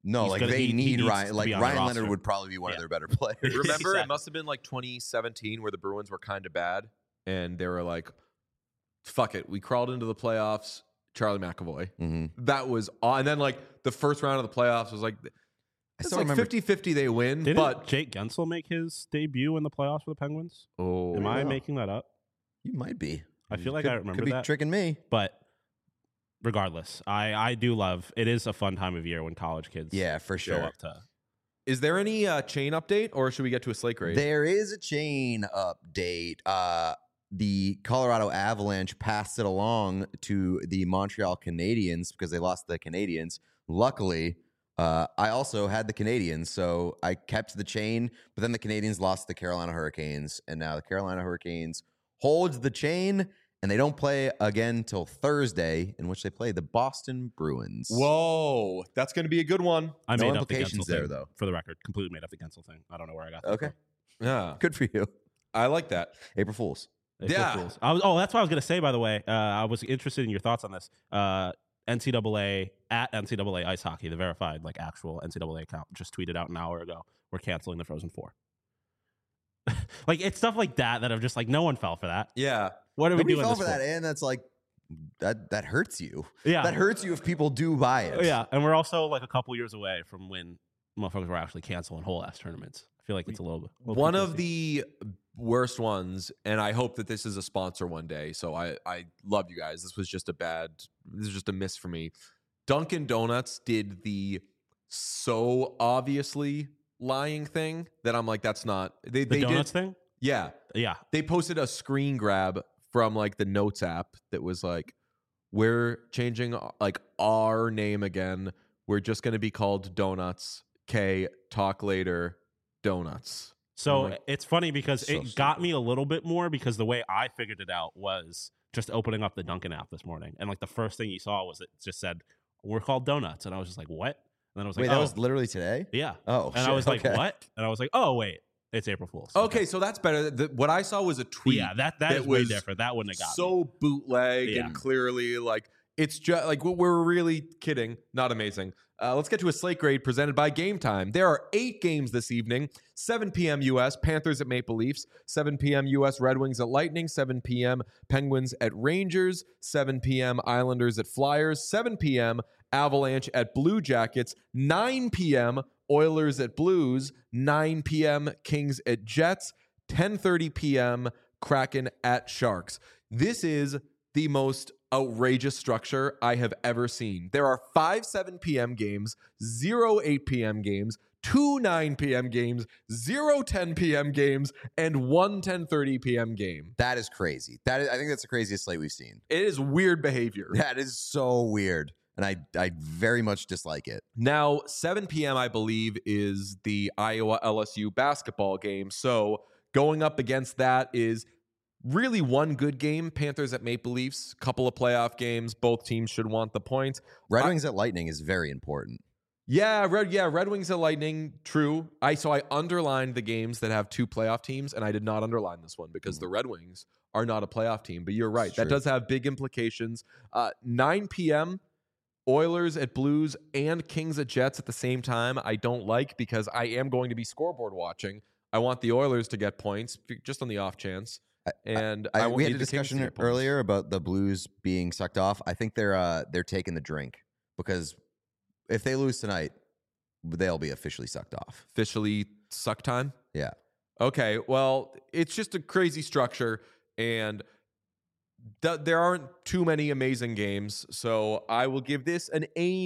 No, He's like gonna- they he need needs Ryan. to Like be on the Ryan Leonard roster. would probably be one of Yeah. their better players. Remember, Exactly. it must have been like 2017 where the Bruins were kind of bad, and they were like, "Fuck it, we crawled into the playoffs." Charlie McAvoy. Mhm. That was, and then like the first round of the playoffs was like, I it's still like remember 50-50 they win, Didn't but Jake Gensel make his debut in the playoffs for the Penguins? oh, Am I wow. making that up? you might be. I feel like Could- I remember could be that. tricking me. But regardless, I do love it. Is a fun time of year when college kids Yeah, for show sure. up to. Is there any chain update, or should we get to a slate grade? There is a chain update. The Colorado Avalanche passed it along to the Montreal Canadiens because they lost the Canadiens. Luckily, I also had the Canadiens, so I kept the chain. But then the Canadiens lost the Carolina Hurricanes, and now the Carolina Hurricanes holds the chain, and they don't play again till Thursday, in which they play the Boston Bruins. Whoa, that's going to be a good one. I No made up the implications Gensel there, thing, though. For the record, completely made up the Gensel thing. I don't know where I got that Okay, from. Yeah, good for you. I like that. April Fools. April Yeah. Fools. That's what I was going to say, by the way. I was interested in your thoughts on this. NCAA, at NCAA Ice Hockey, the verified, like, actual NCAA account, just tweeted out an hour ago, we're canceling the Frozen Four. Like, it's stuff like that I'm just like, no one fell for that. Yeah, What are Nobody we doing fell this for that, and that's like that hurts you. Yeah. That hurts you if people do buy it. Yeah, and we're also like a couple years away from when motherfuckers were actually canceling whole ass tournaments. I feel like it's a little bit. one of the worst ones, and I hope that this is a sponsor one day. So I love you guys. This was just a miss for me. Dunkin' Donuts did the so obviously lying thing that I'm like, that's not they donuts did, thing. Yeah, Yeah, they posted a screen grab from like the Notes app that was like, we're changing like our name again. We're just going to be called Donuts. Talk later. Donuts. so I'm like, it's funny because so it got me a little bit more because the way I figured it out was just opening up the Dunkin' app this morning, and like the first thing you saw was it just said we're called Donuts, and I was just like, what? And then I was like, Wait, oh, that was literally today? yeah. Oh, And I shit, was like, okay. what? And I was like, oh wait, it's April Fool's. Okay, so that's better. What I saw was a tweet. Yeah, that that is way was different. That wouldn't have got me. so bootleg Yeah. and clearly like it's just like we're really kidding. Not amazing. Let's get to a slate grade presented by Game Time. There are 8 games this evening. 7 p.m. U.S. Panthers at Maple Leafs. 7 p.m. U.S. Red Wings at Lightning. 7 p.m. Penguins at Rangers. 7 p.m. Islanders at Flyers. 7 p.m. Avalanche at Blue Jackets. 9 p.m. Oilers at Blues. 9 p.m. Kings at Jets. 10:30 p.m. Kraken at Sharks. This is the most outrageous structure I have ever seen. There are 5 7 p.m. games, 0 8 p.m. games, 2 9 p.m. games, 0 10 p.m. games, and 1 10:30 p.m. game. That is crazy. I think that's the craziest slate we've seen. It is weird behavior. That is so weird. And I very much dislike it. Now, 7 p.m., I believe, is the Iowa LSU basketball game. So going up against that is really one good game. Panthers at Maple Leafs, couple of playoff games. Both teams should want the points. Red Wings at Lightning is very important. Red Wings at Lightning, true. I underlined the games that have 2 playoff teams, and I did not underline this one because the Red Wings are not a playoff team. But you're right. It's That true. does have big implications. 9 p.m., Oilers at Blues and Kings at Jets at the same time. I don't like because I am going to be scoreboard watching. I want the Oilers to get points just on the off chance. And I won't we had need a the Kings to discussion get points. earlier about the Blues being sucked off. I think they're taking the drink because if they lose tonight, they'll be officially sucked off. Officially suck time. Yeah. Okay, well, it's just a crazy structure, and there aren't too many amazing games, so I will give this an A-,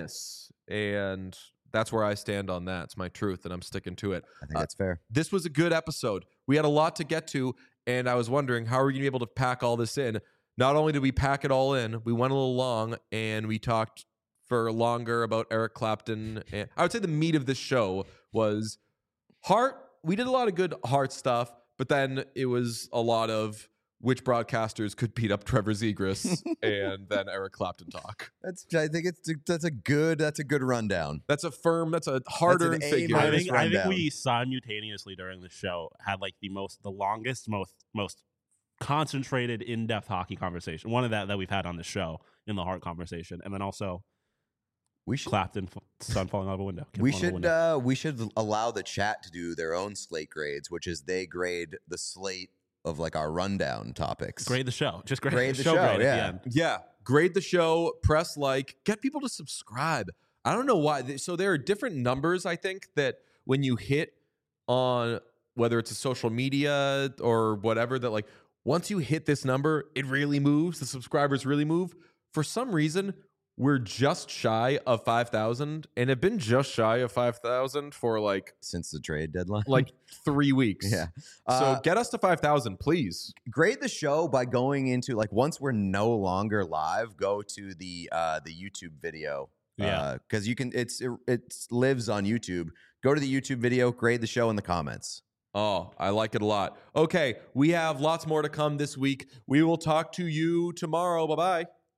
and that's where I stand on that. It's my truth, and I'm sticking to it. I think that's fair. This was a good episode. We had a lot to get to, and I was wondering, how are we going to be able to pack all this in? Not only did we pack it all in, we went a little long, and we talked for longer about Eric Clapton. And I would say the meat of this show was Heart. We did a lot of good Heart stuff, but then it was a lot of which broadcasters could beat up Trevor Zegras and then Eric Clapton talk. I think that's a good rundown. That's a hard-earned an figure. A-. I think rundown. we simultaneously during the show had like the longest, most concentrated, in-depth hockey conversation. One of that we've had on the show in the Heart conversation, and then also We should Clapton, sun falling out of a window. Kid we falling out of a window. should allow the chat to do their own slate grades, which is they grade the slate of like our rundown topics. Grade the show. Just Grade the show show, grade yeah. at the end. Yeah, grade the show, press like, get people to subscribe. I don't know why. So there are different numbers, I think, that when you hit on whether it's a social media or whatever, that like once you hit this number, it really moves. The subscribers really move. For some reason, we're just shy of 5,000 and have been just shy of 5,000 for like Since the trade deadline. 3 weeks. Yeah. So get us to 5,000, please. Grade the show by going into like once we're no longer live, go to the YouTube video. Yeah. Because you can it lives on YouTube. Go to the YouTube video, grade the show in the comments. Oh, I like it a lot. Okay, we have lots more to come this week. We will talk to you tomorrow. Bye-bye.